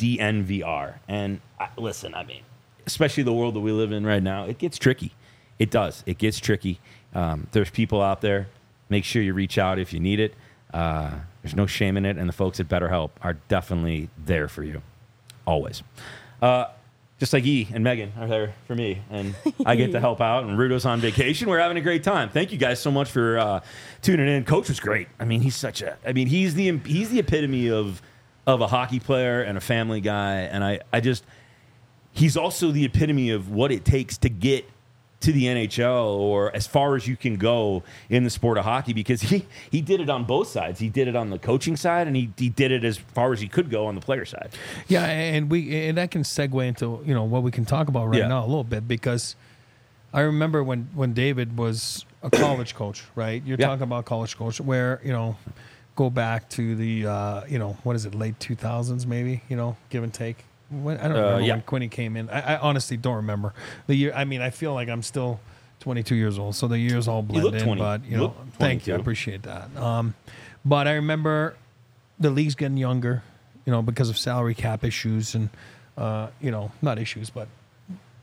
DNVR. And uh, listen, I mean, especially the world that we live in right now, it gets tricky. It does. It gets tricky. Um, there's people out there. Make sure you reach out if you need it. Uh, there's no shame in it, and the folks at BetterHelp are definitely there for you. Always. Uh, Just like E and Megan are there for me, and I get to help out, and Rudo's on vacation. We're having a great time. Thank you guys so much for uh, tuning in. Coach was great. I mean, he's such a, I mean, he's the, he's the epitome of, of a hockey player and a family guy. And I, I just, he's also the epitome of what it takes to get to the N H L or as far as you can go in the sport of hockey, because he, he did it on both sides. He did it on the coaching side, and he, he did it as far as he could go on the player side. Yeah, and we and that can segue into, you know, what we can talk about right Yeah. now a little bit, because I remember when, when David was a college coach, right? You're Yeah. talking about college coach where, you know, go back to the, uh, you know, what is it, late two thousands maybe, you know, give and take. When, I don't Uh, remember yeah. when Quinny came in. I, I honestly don't remember the year. I mean, I feel like I'm still twenty-two years old, so the years all blend look in. twenty. But you You know, look thank you, I twenty-two. appreciate that. Um, but I remember the league's getting younger, you know, because of salary cap issues and uh, you know, not issues, but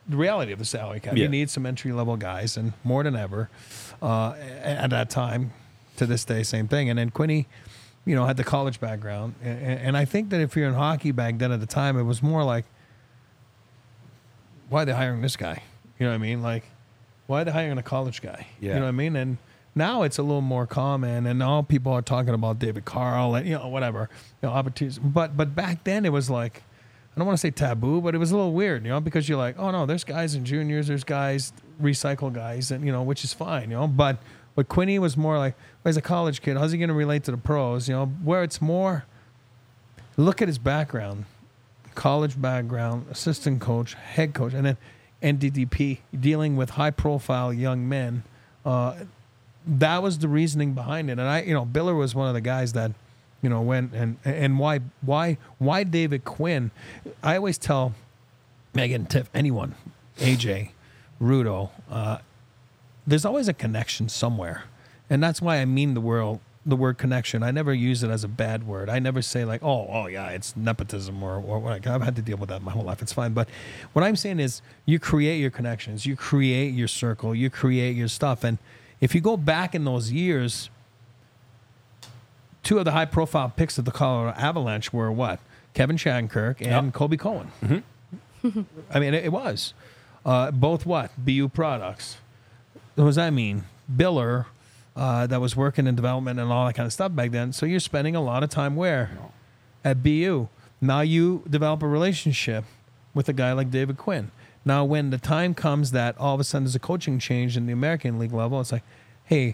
the reality of the salary cap. Yeah. You need some entry level guys, and more than ever uh, at that time. To this day, same thing. And then Quinny, you know, had the college background, and, and I think that if you're in hockey back then at the time, it was more like, why are they hiring this guy? You know what I mean? Like, why are they hiring a college guy? Yeah. You know what I mean? And now it's a little more common, and now people are talking about David Carl and, you know, whatever, you know, opportunities. But but back then it was like, I don't want to say taboo, but it was a little weird, you know, because you're like, oh no, there's guys in juniors, there's guys, recycle guys, and you know, which is fine, you know. But but Quinny was more like, well, he's a college kid, how's he going to relate to the pros? You know, where it's more, look at his background, college background, assistant coach, head coach, and then N D D P, dealing with high profile young men. Uh, that was the reasoning behind it. And I, you know, Biller was one of the guys that, you know, went and and why why why David Quinn? I always tell Megan, Tiff, anyone, A J, Rudo, uh, there's always a connection somewhere, and that's why I mean the word the word connection. I never use it as a bad word. I never say like, oh, oh yeah, it's nepotism or or what. I've had to deal with that my whole life. It's fine. But what I'm saying is, you create your connections, you create your circle, you create your stuff, and if you go back in those years, two of the high-profile picks of the Colorado Avalanche were what? Kevin Shattenkirk and Yep. Kobe Cohen. Mm-hmm. I mean, it, it was. Uh, both what? B U products. What does that mean? Biller, uh, that was working in development and all that kind of stuff back then. So you're spending a lot of time where? No. At B U. Now you develop a relationship with a guy like David Quinn. Now, when the time comes that all of a sudden there's a coaching change in the American League level, it's like, hey,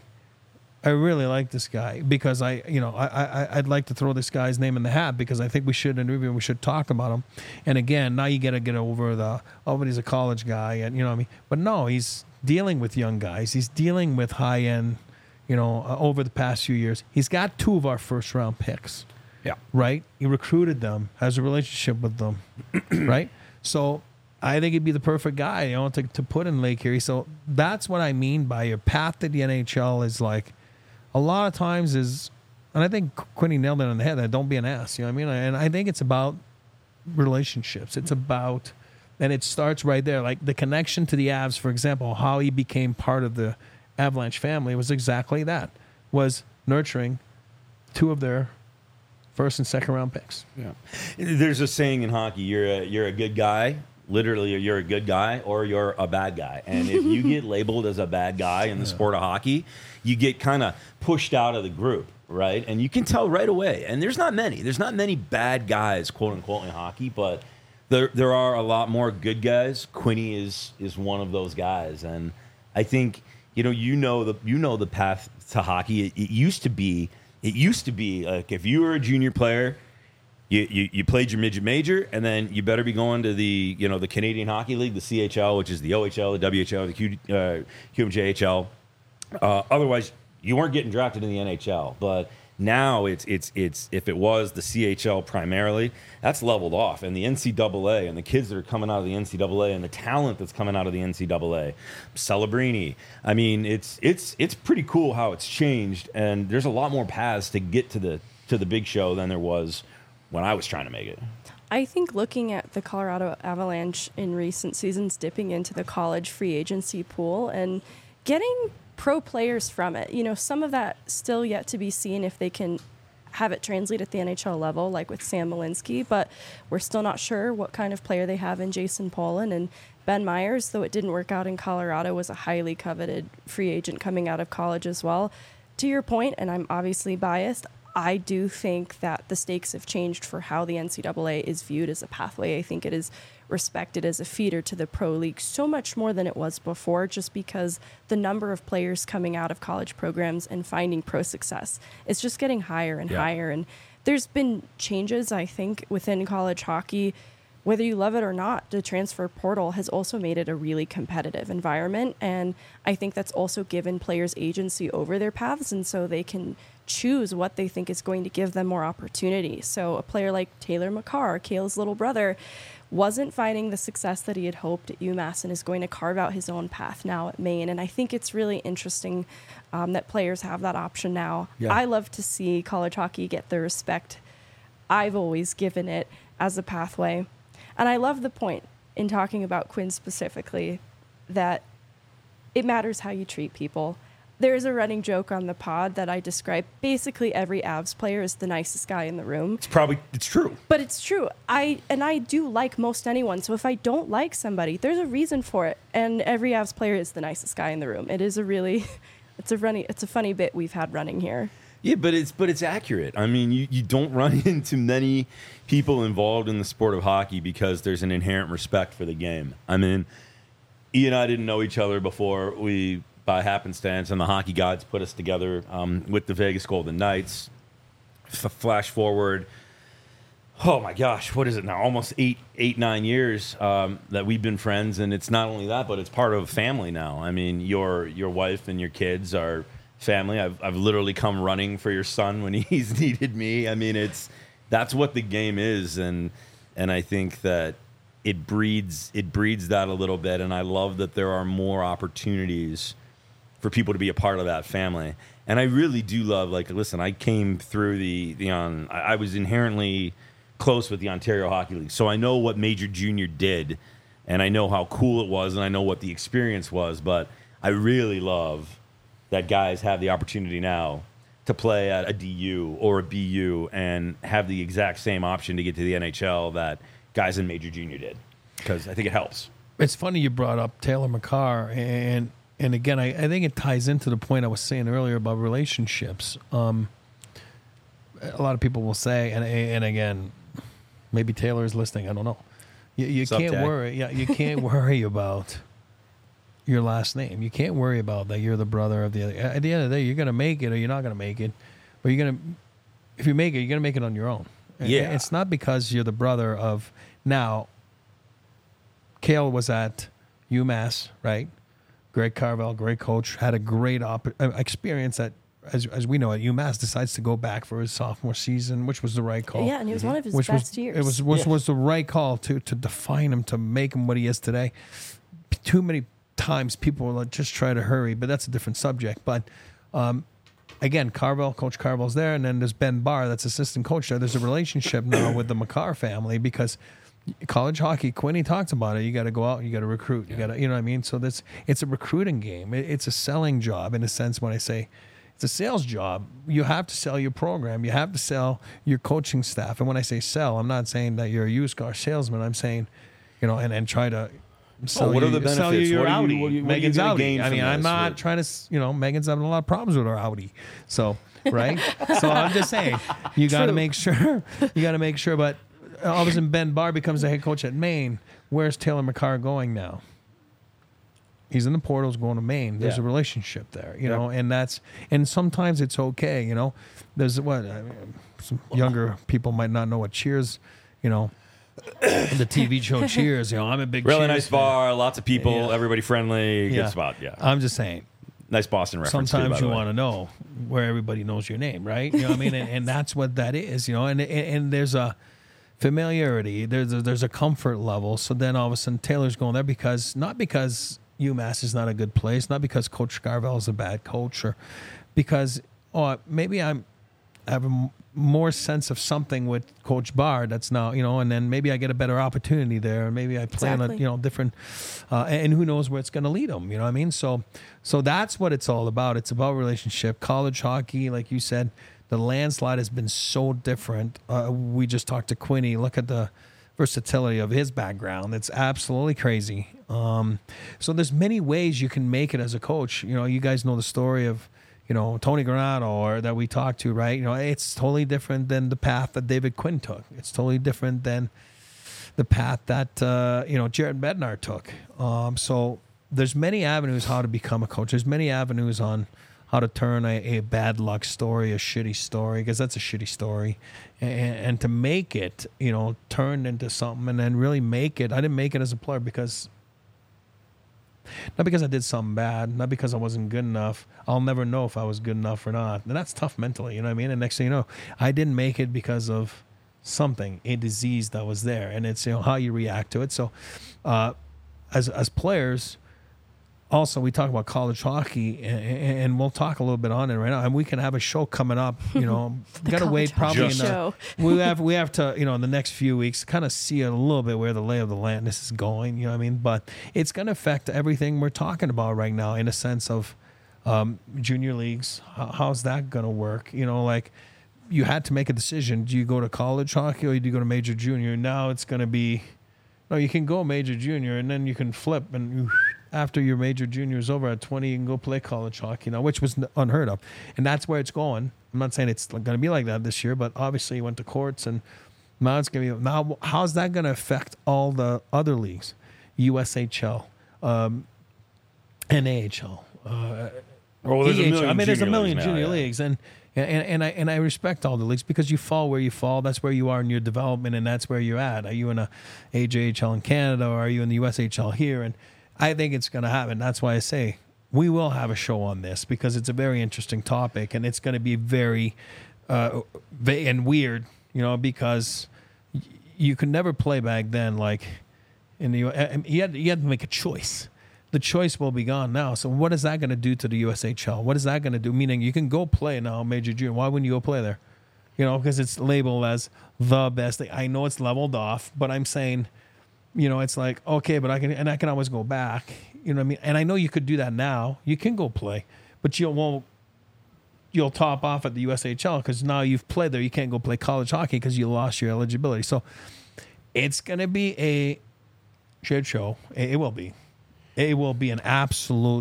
I really like this guy because I, you know, I, I, I'd like to throw this guy's name in the hat because I think we should interview him, we should talk about him. And again, now you got to get over the, oh, but he's a college guy, and you know what I mean. But no, he's dealing with young guys. He's dealing with high end, you know, uh, over the past few years. He's got two of our first round picks. Yeah. Right. He recruited them, has a relationship with them. Right. So I think he'd be the perfect guy, you know, to, to put in Lake Erie. So that's what I mean by your path to the N H L is like, a lot of times is, and I think Quinny nailed it on the head, that don't be an ass, you know what I mean? And I think it's about relationships. It's about, and it starts right there. Like the connection to the Avs, for example, how he became part of the Avalanche family was exactly that, was nurturing two of their first and second round picks. Yeah. There's a saying in hockey, you're a, you're a good guy. Literally, you're a good guy or you're a bad guy. And if you get labeled as a bad guy in the yeah. sport of hockey, you get kind of pushed out of the group, right? And you can tell right away. And there's not many. There's not many bad guys, quote unquote, in hockey, but there there are a lot more good guys. Quinny is is one of those guys. And I think, you know, you know the you know the path to hockey. It, it used to be it used to be like if you were a junior player, You, you you played your midget major, and then you better be going to the you know the Canadian Hockey League, the C H L, which is the O H L, the W H L, the Q, uh, Q M J H L. Uh, otherwise, you weren't getting drafted in the N H L. But now it's it's it's if it was the C H L primarily, that's leveled off, and the N C double A and the kids that are coming out of the N C double A and the talent that's coming out of the N C double A, Celebrini. I mean, it's it's it's pretty cool how it's changed, and there's a lot more paths to get to the to the big show than there was when I was trying to make it. I think looking at the Colorado Avalanche in recent seasons, dipping into the college free agency pool and getting pro players from it, you know, some of that still yet to be seen if they can have it translate at the N H L level, like with Sam Malinsky, but we're still not sure what kind of player they have in Jason Polin. And Ben Myers, though it didn't work out in Colorado, was a highly coveted free agent coming out of college as well. To your point, and I'm obviously biased, I do think that the stakes have changed for how the N C double A is viewed as a pathway. I think it is respected as a feeder to the pro league so much more than it was before, just because the number of players coming out of college programs and finding pro success is just getting higher and yeah. higher. And there's been changes, I think, within college hockey. Whether you love it or not, the transfer portal has also made it a really competitive environment. And I think that's also given players agency over their paths, and so they can choose what they think is going to give them more opportunity. So a player like Taylor McCarr, Cale's little brother, wasn't finding the success that he had hoped at UMass and is going to carve out his own path now at Maine. And I think it's really interesting um, that players have that option now. Yeah. I love to see college hockey get the respect I've always given it as a pathway. And I love the point. in talking about Quinn specifically, that it matters how you treat people. There is a running joke on the pod that I describe basically every Avs player is the nicest guy in the room. It's probably, it's true. But it's true. I and I do like most anyone. So if I don't like somebody, there's a reason for it. And every Avs player is the nicest guy in the room. It is a really, it's a running, it's a funny bit we've had running here. Yeah, but it's but it's accurate. I mean, you, you don't run into many people involved in the sport of hockey because there's an inherent respect for the game. I mean, E and I didn't know each other before we, by happenstance, and the hockey gods put us together um, with the Vegas Golden Knights. F- flash forward, oh my gosh, what is it now? Almost eight, eight, nine years um, that we've been friends, and it's not only that, but it's part of family now. I mean, your your wife and your kids are family. I've I've literally come running for your son when he's needed me. I mean, it's that's what the game is, and and I think that it breeds it breeds that a little bit, and I love that there are more opportunities for people to be a part of that family. And I really do love, like, listen, I came through the the on I, I was inherently close with the Ontario Hockey League, so I know what Major Junior did, and I know how cool it was, and I know what the experience was. But I really love that guys have the opportunity now to play at a D U or a B U and have the exact same option to get to the N H L that guys in Major Junior did, because I think it helps. It's funny you brought up Taylor McCarr, and and again, I, I think it ties into the point I was saying earlier about relationships. Um, a lot of people will say, and and again, maybe Taylor is listening. I don't know. You, you can't Tag? worry. Yeah, you can't worry about your last name. You can't worry about that you're the brother of the other. At the end of the day, you're gonna make it or you're not gonna make it. But you're gonna, if you make it, you're gonna make it on your own. Yeah. It's not because you're the brother of. Now, Cale was at UMass, right? Greg Carvel, great coach, had a great op- uh, experience at, as as we know, at UMass. Decides to go back for his sophomore season, which was the right call. Yeah, and it was one of his which best was, years. It was was, Yeah. was the right call to to define him, to make him what he is today. Too many times people will just try to hurry, but that's a different subject. But um, again, Carvel, Coach Carvel's there, and then there's Ben Barr, that's assistant coach there. There's a relationship now with the McCarr family because college hockey, Quinny talks about it. You got to go out, you got to recruit, you got to, you know what I mean? So that's, it's a recruiting game. It, it's a selling job in a sense. When I say it's a sales job, you have to sell your program. You have to sell your coaching staff. And when I say sell, I'm not saying that you're a used car salesman. I'm saying, you know, and, and try to sell Oh, what you, are the sell you benefits? your What are you- Audi. what are you- what are you Megan's gonna Audi. gain I from mean, I'm this? not What- trying to, you know, Megan's having a lot of problems with her Audi. So, right? So I'm just saying, you got to True. make sure, you got to make sure, but all of a sudden Ben Barr becomes the head coach at Maine. Where's Taylor McCarr going now? He's in the portals going to Maine. There's Yeah. a relationship there, you Yeah. know, and that's, and sometimes it's okay, you know. There's what, I mean, some younger people might not know what Cheers, you know, the T V show Cheers, you know, I'm a big Really Cheers nice fan. bar, lots of people, Yeah. everybody friendly, Yeah. good spot. Yeah, I'm just saying, nice Boston reference. too, by sometimes the you way. want to know where everybody knows your name, right? You know what I mean? And, and that's what that is, you know. And and, and there's a familiarity, there's a, there's a comfort level. So then all of a sudden Taylor's going there because not because UMass is not a good place, not because Coach Carvel is a bad coach, or because oh maybe I'm I have a m- more sense of something with Coach Barr that's now, you know, and then maybe I get a better opportunity there, and maybe I play on a, Exactly. you know, different, uh, and who knows where it's going to lead them, you know what I mean? So, so that's what it's all about. It's about relationship. College hockey, like you said, the landslide has been so different. Uh, we just talked to Quinny. Look at the versatility of his background. It's absolutely crazy. Um, so there's many ways you can make it as a coach. You know, you guys know the story of, you know, Tony Granato, or that we talked to, right? You know, it's totally different than the path that David Quinn took. It's totally different than the path that, uh, you know, Jared Bednar took. Um, so there's many avenues how to become a coach. There's many avenues on how to turn a, a bad luck story, a shitty story, because that's a shitty story, and, and to make it, you know, turn into something and then really make it. I didn't make it as a player because, not because I did something bad, not because I wasn't good enough. I'll never know if I was good enough or not. And that's tough mentally, you know what I mean? And next thing you know, I didn't make it because of something, a disease that was there. And it's, you know, how you react to it. So uh, as as players, also we talk about college hockey, and, and we'll talk a little bit on it right now. And we can have a show coming up. You know, got to wait probably in the, show. we have we have to you know in the next few weeks kind of see a little bit where the lay of the land this is going. You know what I mean? But it's going to affect everything we're talking about right now in a sense of um, junior leagues. How, how's that going to work? You know, like you had to make a decision. Do you go to college hockey or do you go to major junior? Now it's going to be no. You can go major junior and then you can flip and. After your major junior is over at twenty, you can go play college hockey now, which was unheard of. And that's where it's going. I'm not saying it's going to be like that this year, but obviously you went to courts and now it's going to be. Now, how's that going to affect all the other leagues? U S H L, um, N A H L, uh, well, there's a E H L. million I mean, there's a junior million leagues now, junior yeah. leagues. And, and, and, I, and I respect all the leagues because you fall where you fall. That's where you are in your development, and that's where you're at. Are you in a A J H L in Canada or are you in the U S H L here? And I think it's going to happen. That's why I say we will have a show on this because it's a very interesting topic and it's going to be very uh, and weird, you know, because y- you could never play back then. Like in the, uh, you had you had to make a choice. The choice will be gone now. So what is that going to do to the U S H L? What is that going to do? Meaning you can go play now, major junior. Why wouldn't you go play there? You know, because it's labeled as the best. I know it's leveled off, but I'm saying. You know, it's like, okay, but I can, and I can always go back. You know what I mean? And I know you could do that now. You can go play, but you won't, you'll top off at the U S H L because now you've played there. You can't go play college hockey because you lost your eligibility. So it's going to be a shit show. It, it will be. It will be an absolute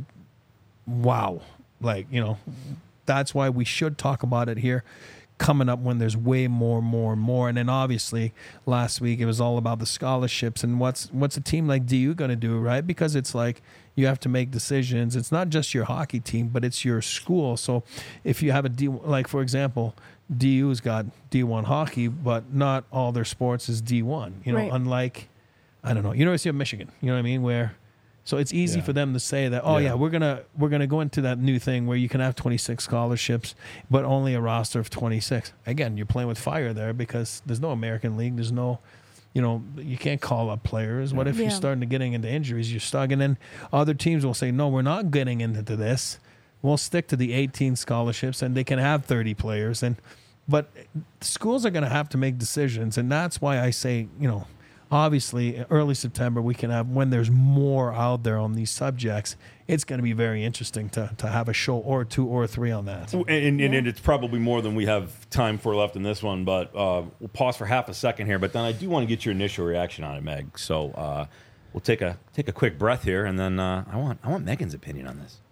wow. Like, you know, that's why we should talk about it here. Coming up when there's way more, more, and more. And then obviously last week it was all about the scholarships and what's what's a team like D U going to do, right? Because it's like you have to make decisions. It's not just your hockey team, but it's your school. So if you have a D, like for example, D U's got D one hockey, but not all their sports is D one. You know, Right. unlike I don't know, University of Michigan. You know what I mean? Where so it's easy Yeah. for them to say that, oh yeah. Yeah. we're gonna we're gonna go into that new thing where you can have twenty-six scholarships, but only a roster of twenty-six. Again, you're playing with fire there because there's no American League. There's no, you know, you can't call up players. What if Yeah. you're starting to getting into injuries? You're stuck, and then other teams will say, no, we're not getting into this. We'll stick to the eighteen scholarships, and they can have thirty players. And but schools are going to have to make decisions, and that's why I say, you know. Obviously, early September, we can have, when there's more out there on these subjects, it's going to be very interesting to, to have a show or two or three on that. And, and, Yeah. and it's probably more than we have time for left in this one, but uh, we'll pause for half a second here. But then I do want to get your initial reaction on it, Meg. So uh, we'll take a take a quick breath here, and then uh, I want I want Megan's opinion on this.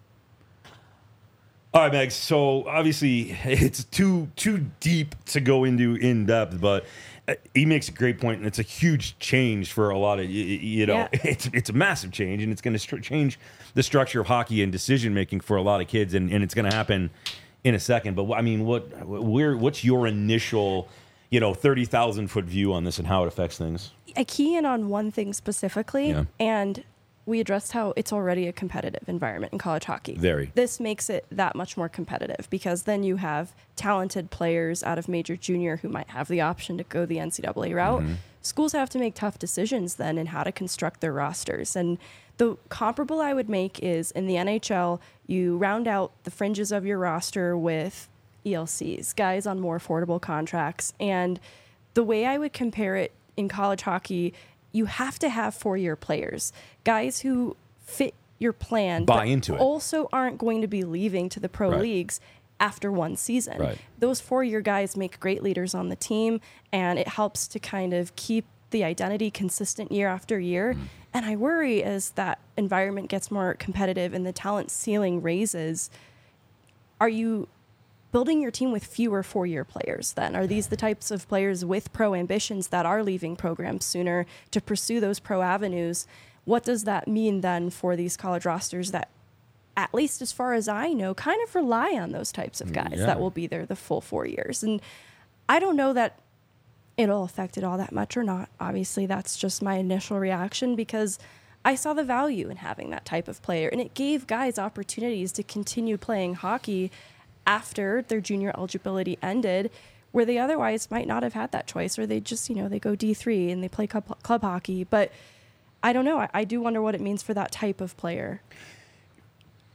All right, Meg. So obviously, it's too too deep to go into in depth, but he makes a great point, and it's a huge change for a lot of you, you know. Yeah. It's it's a massive change, and it's going to stru- change the structure of hockey and decision making for a lot of kids, and, and it's going to happen in a second. But I mean, what where what's your initial, you know, thirty thousand foot view on this and how it affects things? I key in on one thing specifically, Yeah. and we addressed how it's already a competitive environment in college hockey. Very. This makes it that much more competitive because then you have talented players out of major junior who might have the option to go the N C double A route. Mm-hmm. Schools have to make tough decisions then in how to construct their rosters. And the comparable I would make is in the N H L, you round out the fringes of your roster with E L Cs, guys on more affordable contracts. And the way I would compare it in college hockey, you have to have four-year players, guys who fit your plan, Buy but into it. also aren't going to be leaving to the pro Right. leagues after one season. Right. Those four-year guys make great leaders on the team, and it helps to kind of keep the identity consistent year after year. Mm. And I worry as that environment gets more competitive and the talent ceiling raises, are you building your team with fewer four-year players then? Are these the types of players with pro ambitions that are leaving programs sooner to pursue those pro avenues? What does that mean then for these college rosters that, at least as far as I know, kind of rely on those types of guys Yeah. that will be there the full four years? And I don't know that it'll affect it all that much or not. Obviously, that's just my initial reaction because I saw the value in having that type of player, and it gave guys opportunities to continue playing hockey after their junior eligibility ended, where they otherwise might not have had that choice, or they just, you know, they go D three and they play club, club hockey. But I don't know. I, I do wonder what it means for that type of player.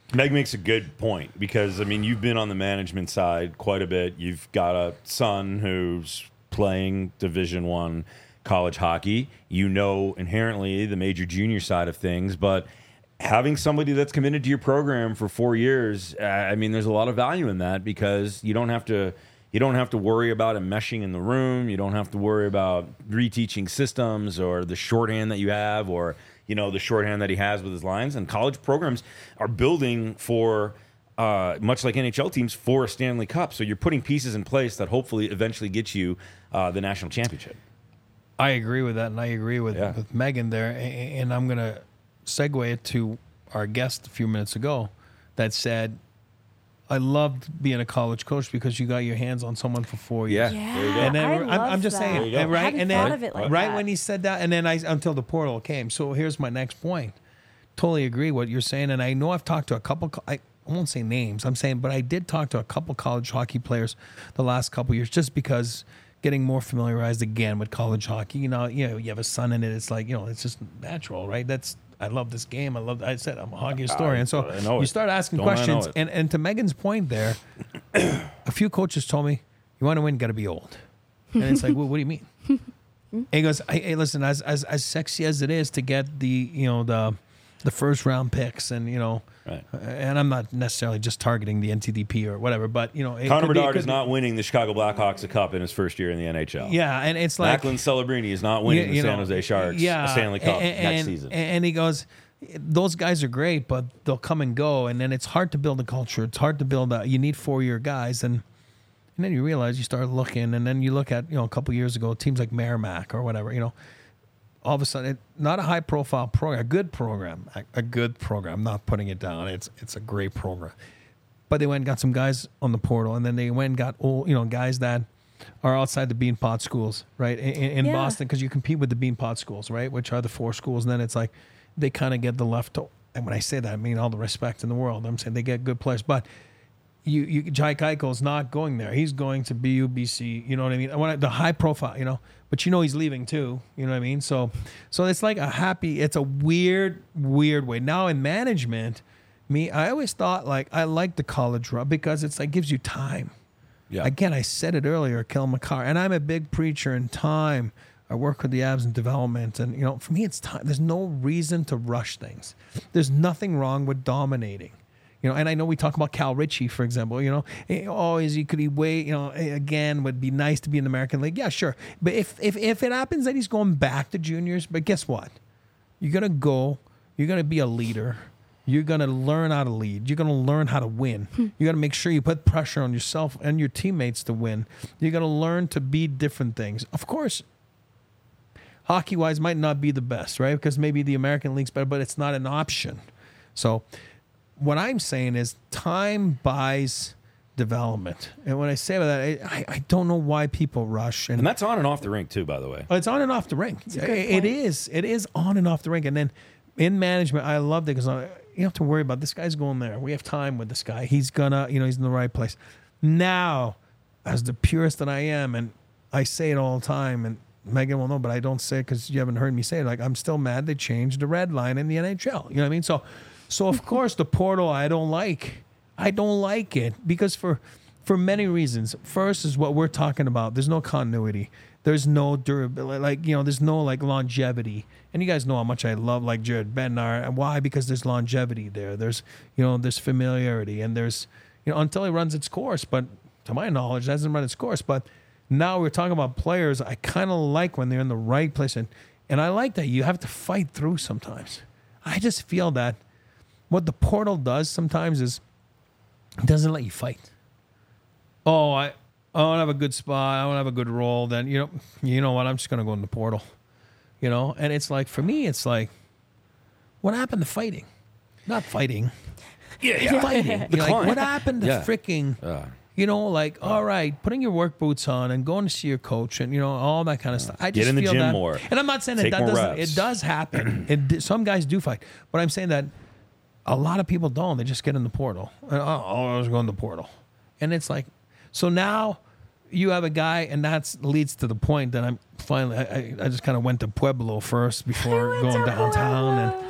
Meg makes a good point because, I mean, you've been on the management side quite a bit. You've got a son who's playing Division One college hockey. You know inherently the major junior side of things, but having somebody that's committed to your program for four years, uh, I mean, there's a lot of value in that because you don't have to you don't have to worry about enmeshing in the room. You don't have to worry about reteaching systems or the shorthand that you have or you know, the shorthand that he has with his lines. And college programs are building for, uh, much like N H L teams, for a Stanley Cup. So you're putting pieces in place that hopefully eventually get you uh, the national championship. I agree with that, and I agree with, Yeah. with Megan there. And I'm going to segue it to our guest a few minutes ago that said, I loved being a college coach because you got your hands on someone for four years. Yeah. Yeah, There you go. And then I I'm, love I'm just that. saying, There you go. and right, I hadn't and thought then of it like right that. when he said that, and then I until the portal came. So here's my next point. Totally agree what you're saying, and I know I've talked to a couple. co- I won't say names. I'm saying, but I did talk to a couple college hockey players the last couple years, just because getting more familiarized again with college hockey. You know, you know, you have a son in it. It's like you know, it's just natural, right? That's I love this game. I love. I said I'm a hockey historian, so I know you it. start asking Don't I know questions. it. And and to Megan's point there, a few coaches told me, "You want to win, got to be old." And it's like, well, what do you mean? And he goes, hey, hey, listen, as as as sexy as it is to get the you know the the first round picks, and you know, Right. and I'm not necessarily just targeting the N T D P or whatever, but you know, it Connor could be- it Bedard could is be- not winning the Chicago Blackhawks a cup in his first year in the N H L. Yeah, and it's like Macklin Celebrini is not winning you- the you San know, Jose Sharks yeah, a Stanley Cup and, next and- season. And he goes, those guys are great, but they'll come and go, and then it's hard to build a culture. It's hard to build a. You need four year guys, and and then you realize you start looking, and then you look at you know a couple years ago teams like Merrimack or whatever, you know. All of a sudden, it, not a high profile program, a good program, a, a good program. I'm not putting it down. It's it's a great program, but they went and got some guys on the portal, and then they went and got old, you know, guys that are outside the Beanpot schools, right, in, in Yeah. Boston, because you compete with the Beanpot schools, right, which are the four schools, and then it's like they kind of get the left. And when I say that, I mean all the respect in the world. I'm saying they get good players, but you, you Jai Keiko's not going there. He's going to B U B C. You know what I mean? When I, the high profile, you know. But you know he's leaving too. You know what I mean? So, so it's like a happy. It's a weird, weird way. Now in management, me, I always thought like I like the college run because it's like gives you time. Yeah. Again, I said it earlier, Kel McCarr, and I'm a big preacher in time. I work with the Avs in development, and you know, for me, it's time. There's no reason to rush things. There's nothing wrong with dominating. You know, and I know we talk about Cal Ritchie, for example. You know, eh, oh, is he could he wait? You know, eh, again, would be nice to be in the American League. Yeah, sure. But if if if it happens that he's going back to juniors, but guess what? You're gonna go. You're gonna be a leader. You're gonna learn how to lead. You're gonna learn how to win. You gotta make sure you put pressure on yourself and your teammates to win. You're gonna learn to be different things. Of course, hockey wise might not be the best, right? Because maybe the American League's better, but it's not an option. So what I'm saying is time buys development. And when I say that, I, I don't know why people rush. And, And that's on and off the rink too, by the way. oh, it's on and off the rink. a good It- point. it is. It is on and off the rink. And then in management, I loved it because you don't have to worry about this guy's going there. We have time with this guy. He's gonna, you know, he's in the right place. Now, as the purist that I am, and I say it all the time, and Megan will know, but I don't say it because you haven't heard me say it. Like, I'm still mad they changed the red line in the N H L. You know what I mean? So, so of course, the portal I don't like. I don't like it because for for many reasons. First is what we're talking about. There's no continuity. There's no durability. Like, you know, there's no like longevity. And you guys know how much I love like Jared Bednar. And why? Because there's longevity there. There's, you know, there's familiarity, and there's, you know, until it runs its course. But to my knowledge, it hasn't run its course. But now we're talking about players I kind of like when they're in the right place. And, and I like that you have to fight through sometimes. I just feel that what the portal does sometimes is it doesn't let you fight. Oh, I, I want to have a good spot. I want to have a good role. Then, you know, you know what? I'm just going to go in the portal, you know? And it's like, for me, it's like, what happened to fighting? Not fighting. Yeah, yeah. Fighting. The You're like, climb. what happened to Yeah. freaking, Uh, you know, like, all right, putting your work boots on and going to see your coach and, you know, all that kind of stuff. I Get just in the feel gym that, more. And I'm not saying that Take that more doesn't, reps. it does happen. it, di- some guys do fight. But I'm saying that a lot of people don't. They just get in the portal. And, oh, oh, I was going to the portal. And it's like, so now you have a guy, and that leads to the point that I'm finally, I, I, I just kind of went to Pueblo first before going downtown. And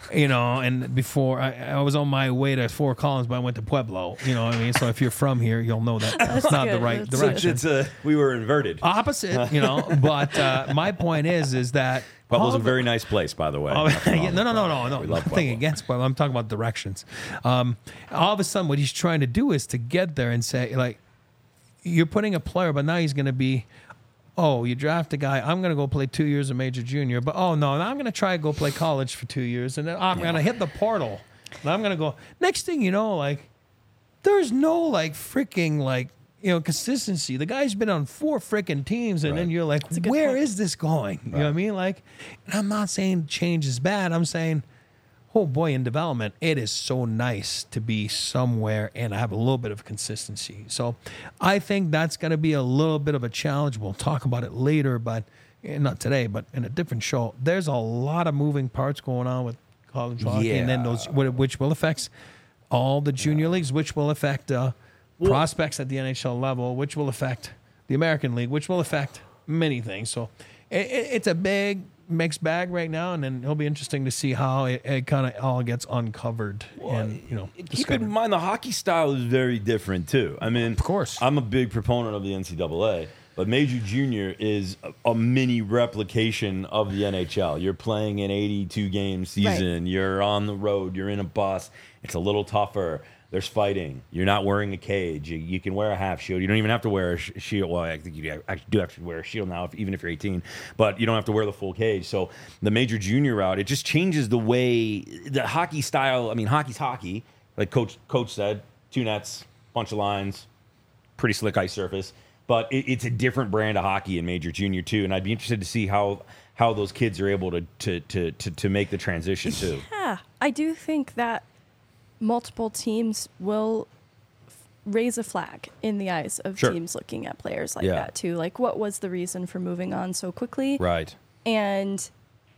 you know, and before I, I was on my way to Fort Collins, but I went to Pueblo. You know what I mean? So if you're from here, you'll know that that's not good. the right That's direction. It's a we were inverted. Opposite, you know. But uh, my point is, is that Pueblo's all a the- very nice place, by the way. Oh, Nothing yeah, wrong no, no, with no, Pueblo. no, no. We love Nothing Pueblo. against Pueblo. I'm talking about directions. Um, all of a sudden, what he's trying to do is to get there and say, like, you're putting a player, but now he's going to be, oh, you draft a guy. I'm going to go play two years of major junior, but oh no, now I'm going to try to go play college for two years, and then I'm going to hit the portal, and I'm going to go. Next thing you know, like, there's no like freaking like. You know, consistency. The guy's been on four freaking teams, and Right. then you're like, a good where point. is this going? You know what I mean? Like, and I'm not saying change is bad. I'm saying, oh boy, in development, it is so nice to be somewhere and have a little bit of consistency. So I think that's going to be a little bit of a challenge. We'll talk about it later, but eh, not today, but in a different show. There's a lot of moving parts going on with college hockey, and then those, which will affect all the junior leagues, which will affect uh, prospects at the N H L level, which will affect the American League, which will affect many things. So it, it, it's a big mixed bag right now, and then it'll be interesting to see how it, it kind of all gets uncovered and you know Keep discovered. in mind the hockey style is very different too. I mean, Of course. I'm a big proponent of the N C double A, but Major Junior is a, a mini replication of the N H L. You're playing an eighty-two game season. You're on the road. You're in a bus. It's a little tougher. There's fighting. You're not wearing a cage. You, you can wear a half shield. You don't even have to wear a sh- shield. Well, I think you actually do have to wear a shield now, if, even if you're eighteen. But you don't have to wear the full cage. So the major junior route, it just changes the way the hockey style. I mean, hockey's hockey. Like Coach Coach said, two nets, bunch of lines, pretty slick ice surface. But it, it's a different brand of hockey in major junior too. And I'd be interested to see how how those kids are able to to to to, to make the transition too. Yeah, I do think that multiple teams will f- raise a flag in the eyes of Sure. teams looking at players like Yeah. that too. Like, what was the reason for moving on so quickly? Right. And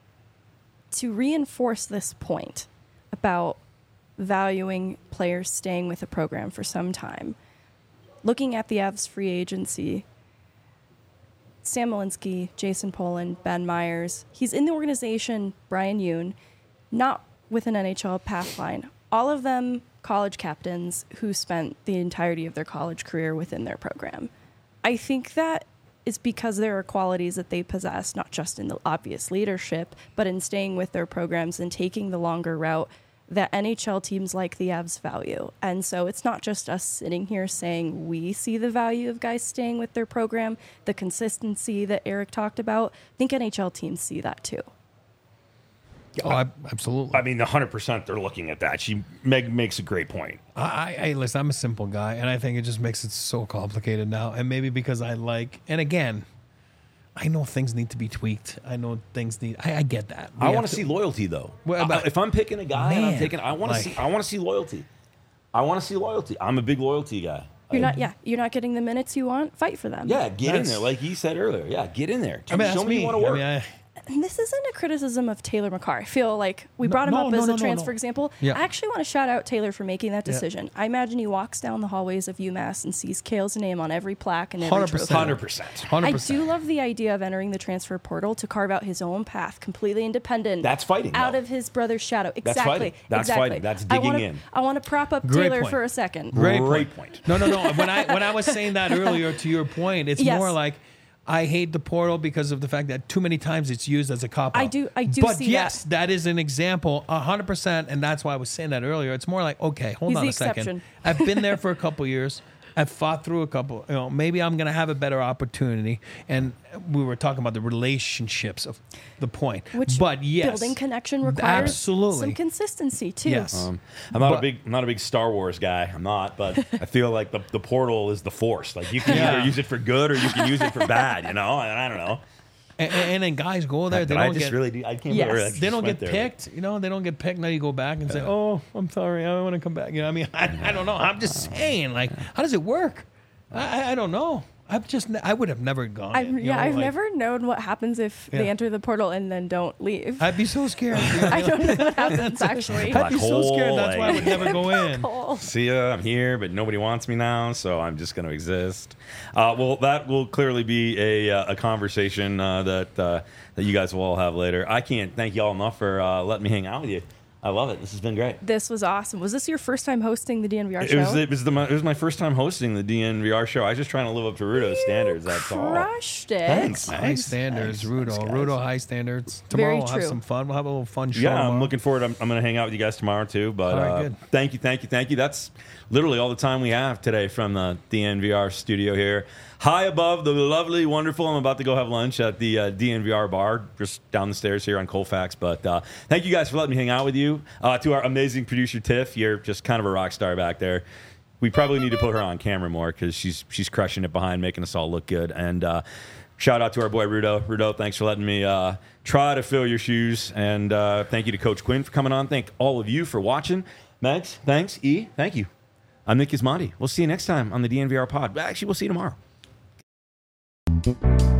to reinforce this point about valuing players staying with a program for some time, looking at the Avs free agency, Sam Malinsky, Jason Poland, Ben Myers, he's in the organization, Brian Yoon, not with an N H L path line. All of them college captains who spent the entirety of their college career within their program. I think that is because there are qualities that they possess, not just in the obvious leadership, but in staying with their programs and taking the longer route that N H L teams like the Avs value. And so it's not just us sitting here saying we see the value of guys staying with their program, the consistency that Eric talked about. I think N H L teams see that too. Oh, I, absolutely. I mean, one hundred percent they're looking at that. She Meg makes a great point. I, I, I listen. I'm a simple guy, and I think it just makes it so complicated now. And maybe because I like, and again, I know things need to be tweaked. I know things need. I, I get that. We I have want to see loyalty though. Well, I- but- if I'm picking a guy and I'm Man, taking, I want to like- see. I want to see loyalty. I want to see loyalty. I'm a big loyalty guy. You're I- not, yeah, you're not getting the minutes you want. Fight for them. Yeah, get in That's- there, like you said earlier. Yeah, get in there. I mean, Show that's me me. you want to I work. mean, I, And this isn't a criticism of Taylor McCarr. I feel like we No, brought him no, up no, as no, a no, transfer no. example. Yeah. I actually want to shout out Taylor for making that Yeah. decision. I imagine he walks down the hallways of UMass and sees Kale's name on every plaque and every one hundred trophy. percent. Hundred percent. one hundred I percent. do love the idea of entering the transfer portal to carve out his own path, completely independent. That's fighting, out though. of his brother's shadow. That's Exactly. fighting. That's exactly. fighting. That's I digging wanna, in. I want to prop up Great Taylor point. for a second. Great, Great point. point. No, no, no. When I when I was saying that earlier, to your point, it's Yes. more like I hate the portal because of the fact that too many times it's used as a cop out. I do- I do But see yes, that. that is an example, a hundred percent, and that's why I was saying that earlier. It's more like, okay, hold He's on the a second. exception. I've been there for a couple years. I've fought through a couple. You know, maybe I'm going to have a better opportunity. And we were talking about the relationships of the point. Which but yes, building connection requires absolutely. some consistency too. Yes. Um, I'm not But- a big, I'm not a big Star Wars guy. I'm not, but I feel like the, the portal is the Force. Like you can Yeah. either use it for good or you can use it for bad. You know, and I don't know. And, and then guys go there. They But I don't just get. really, do, I can't. Yes. believe I they just don't went get there. picked, you know. They don't get picked. Now you go back and say, "Oh, I'm sorry, I want to come back." You know, I mean, I, I don't know. I'm just saying, like, how does it work? I, I- I don't know. I've just, ne- I would have never gone. I've, in, you yeah, know, I've like, never known what happens if Yeah. they enter the portal and then don't leave. I'd be so scared. you know? I don't know what happens actually. Black I'd be so scared. hole, That's why I would like- never go in. Cool. See ya, I'm here, but nobody wants me now, so I'm just going to exist. Uh, well, that will clearly be a, uh, a conversation uh, that uh, that you guys will all have later. I can't thank y'all enough for uh, letting me hang out with you I love it. This has been great. This was awesome. Was this your first time hosting the D N V R It show? was, it, was the, it was my first time hosting the D N V R show. I was just trying to live up to Rudo's You standards. That's all. crushed it. Thanks. High Thanks. standards, Thanks. Rudo. Thanks, guys. Rudo, high standards. Very Tomorrow we'll have true. some fun. We'll have a little fun show. Yeah, I'm tomorrow. looking forward. I'm, I'm going to hang out with you guys tomorrow too. But All right, uh, good. thank you, thank you, thank you. That's literally all the time we have today from the D N V R studio here. High above the lovely, wonderful. I'm about to go have lunch at the uh, D N V R bar just down the stairs here on Colfax. But uh, thank you guys for letting me hang out with you. Uh, to our amazing producer Tiff, you're just kind of a rock star back there. We probably need to put her on camera more because she's she's crushing it behind, making us all look good. And uh, shout out to our boy Rudo. Rudo, thanks for letting me uh, try to fill your shoes. And uh, thank you to Coach Quinn for coming on. Thank all of you for watching. Max, thanks. E, thank you. I'm Nick Gismondi. We'll see you next time on the D N V R pod. Actually, we'll see you tomorrow.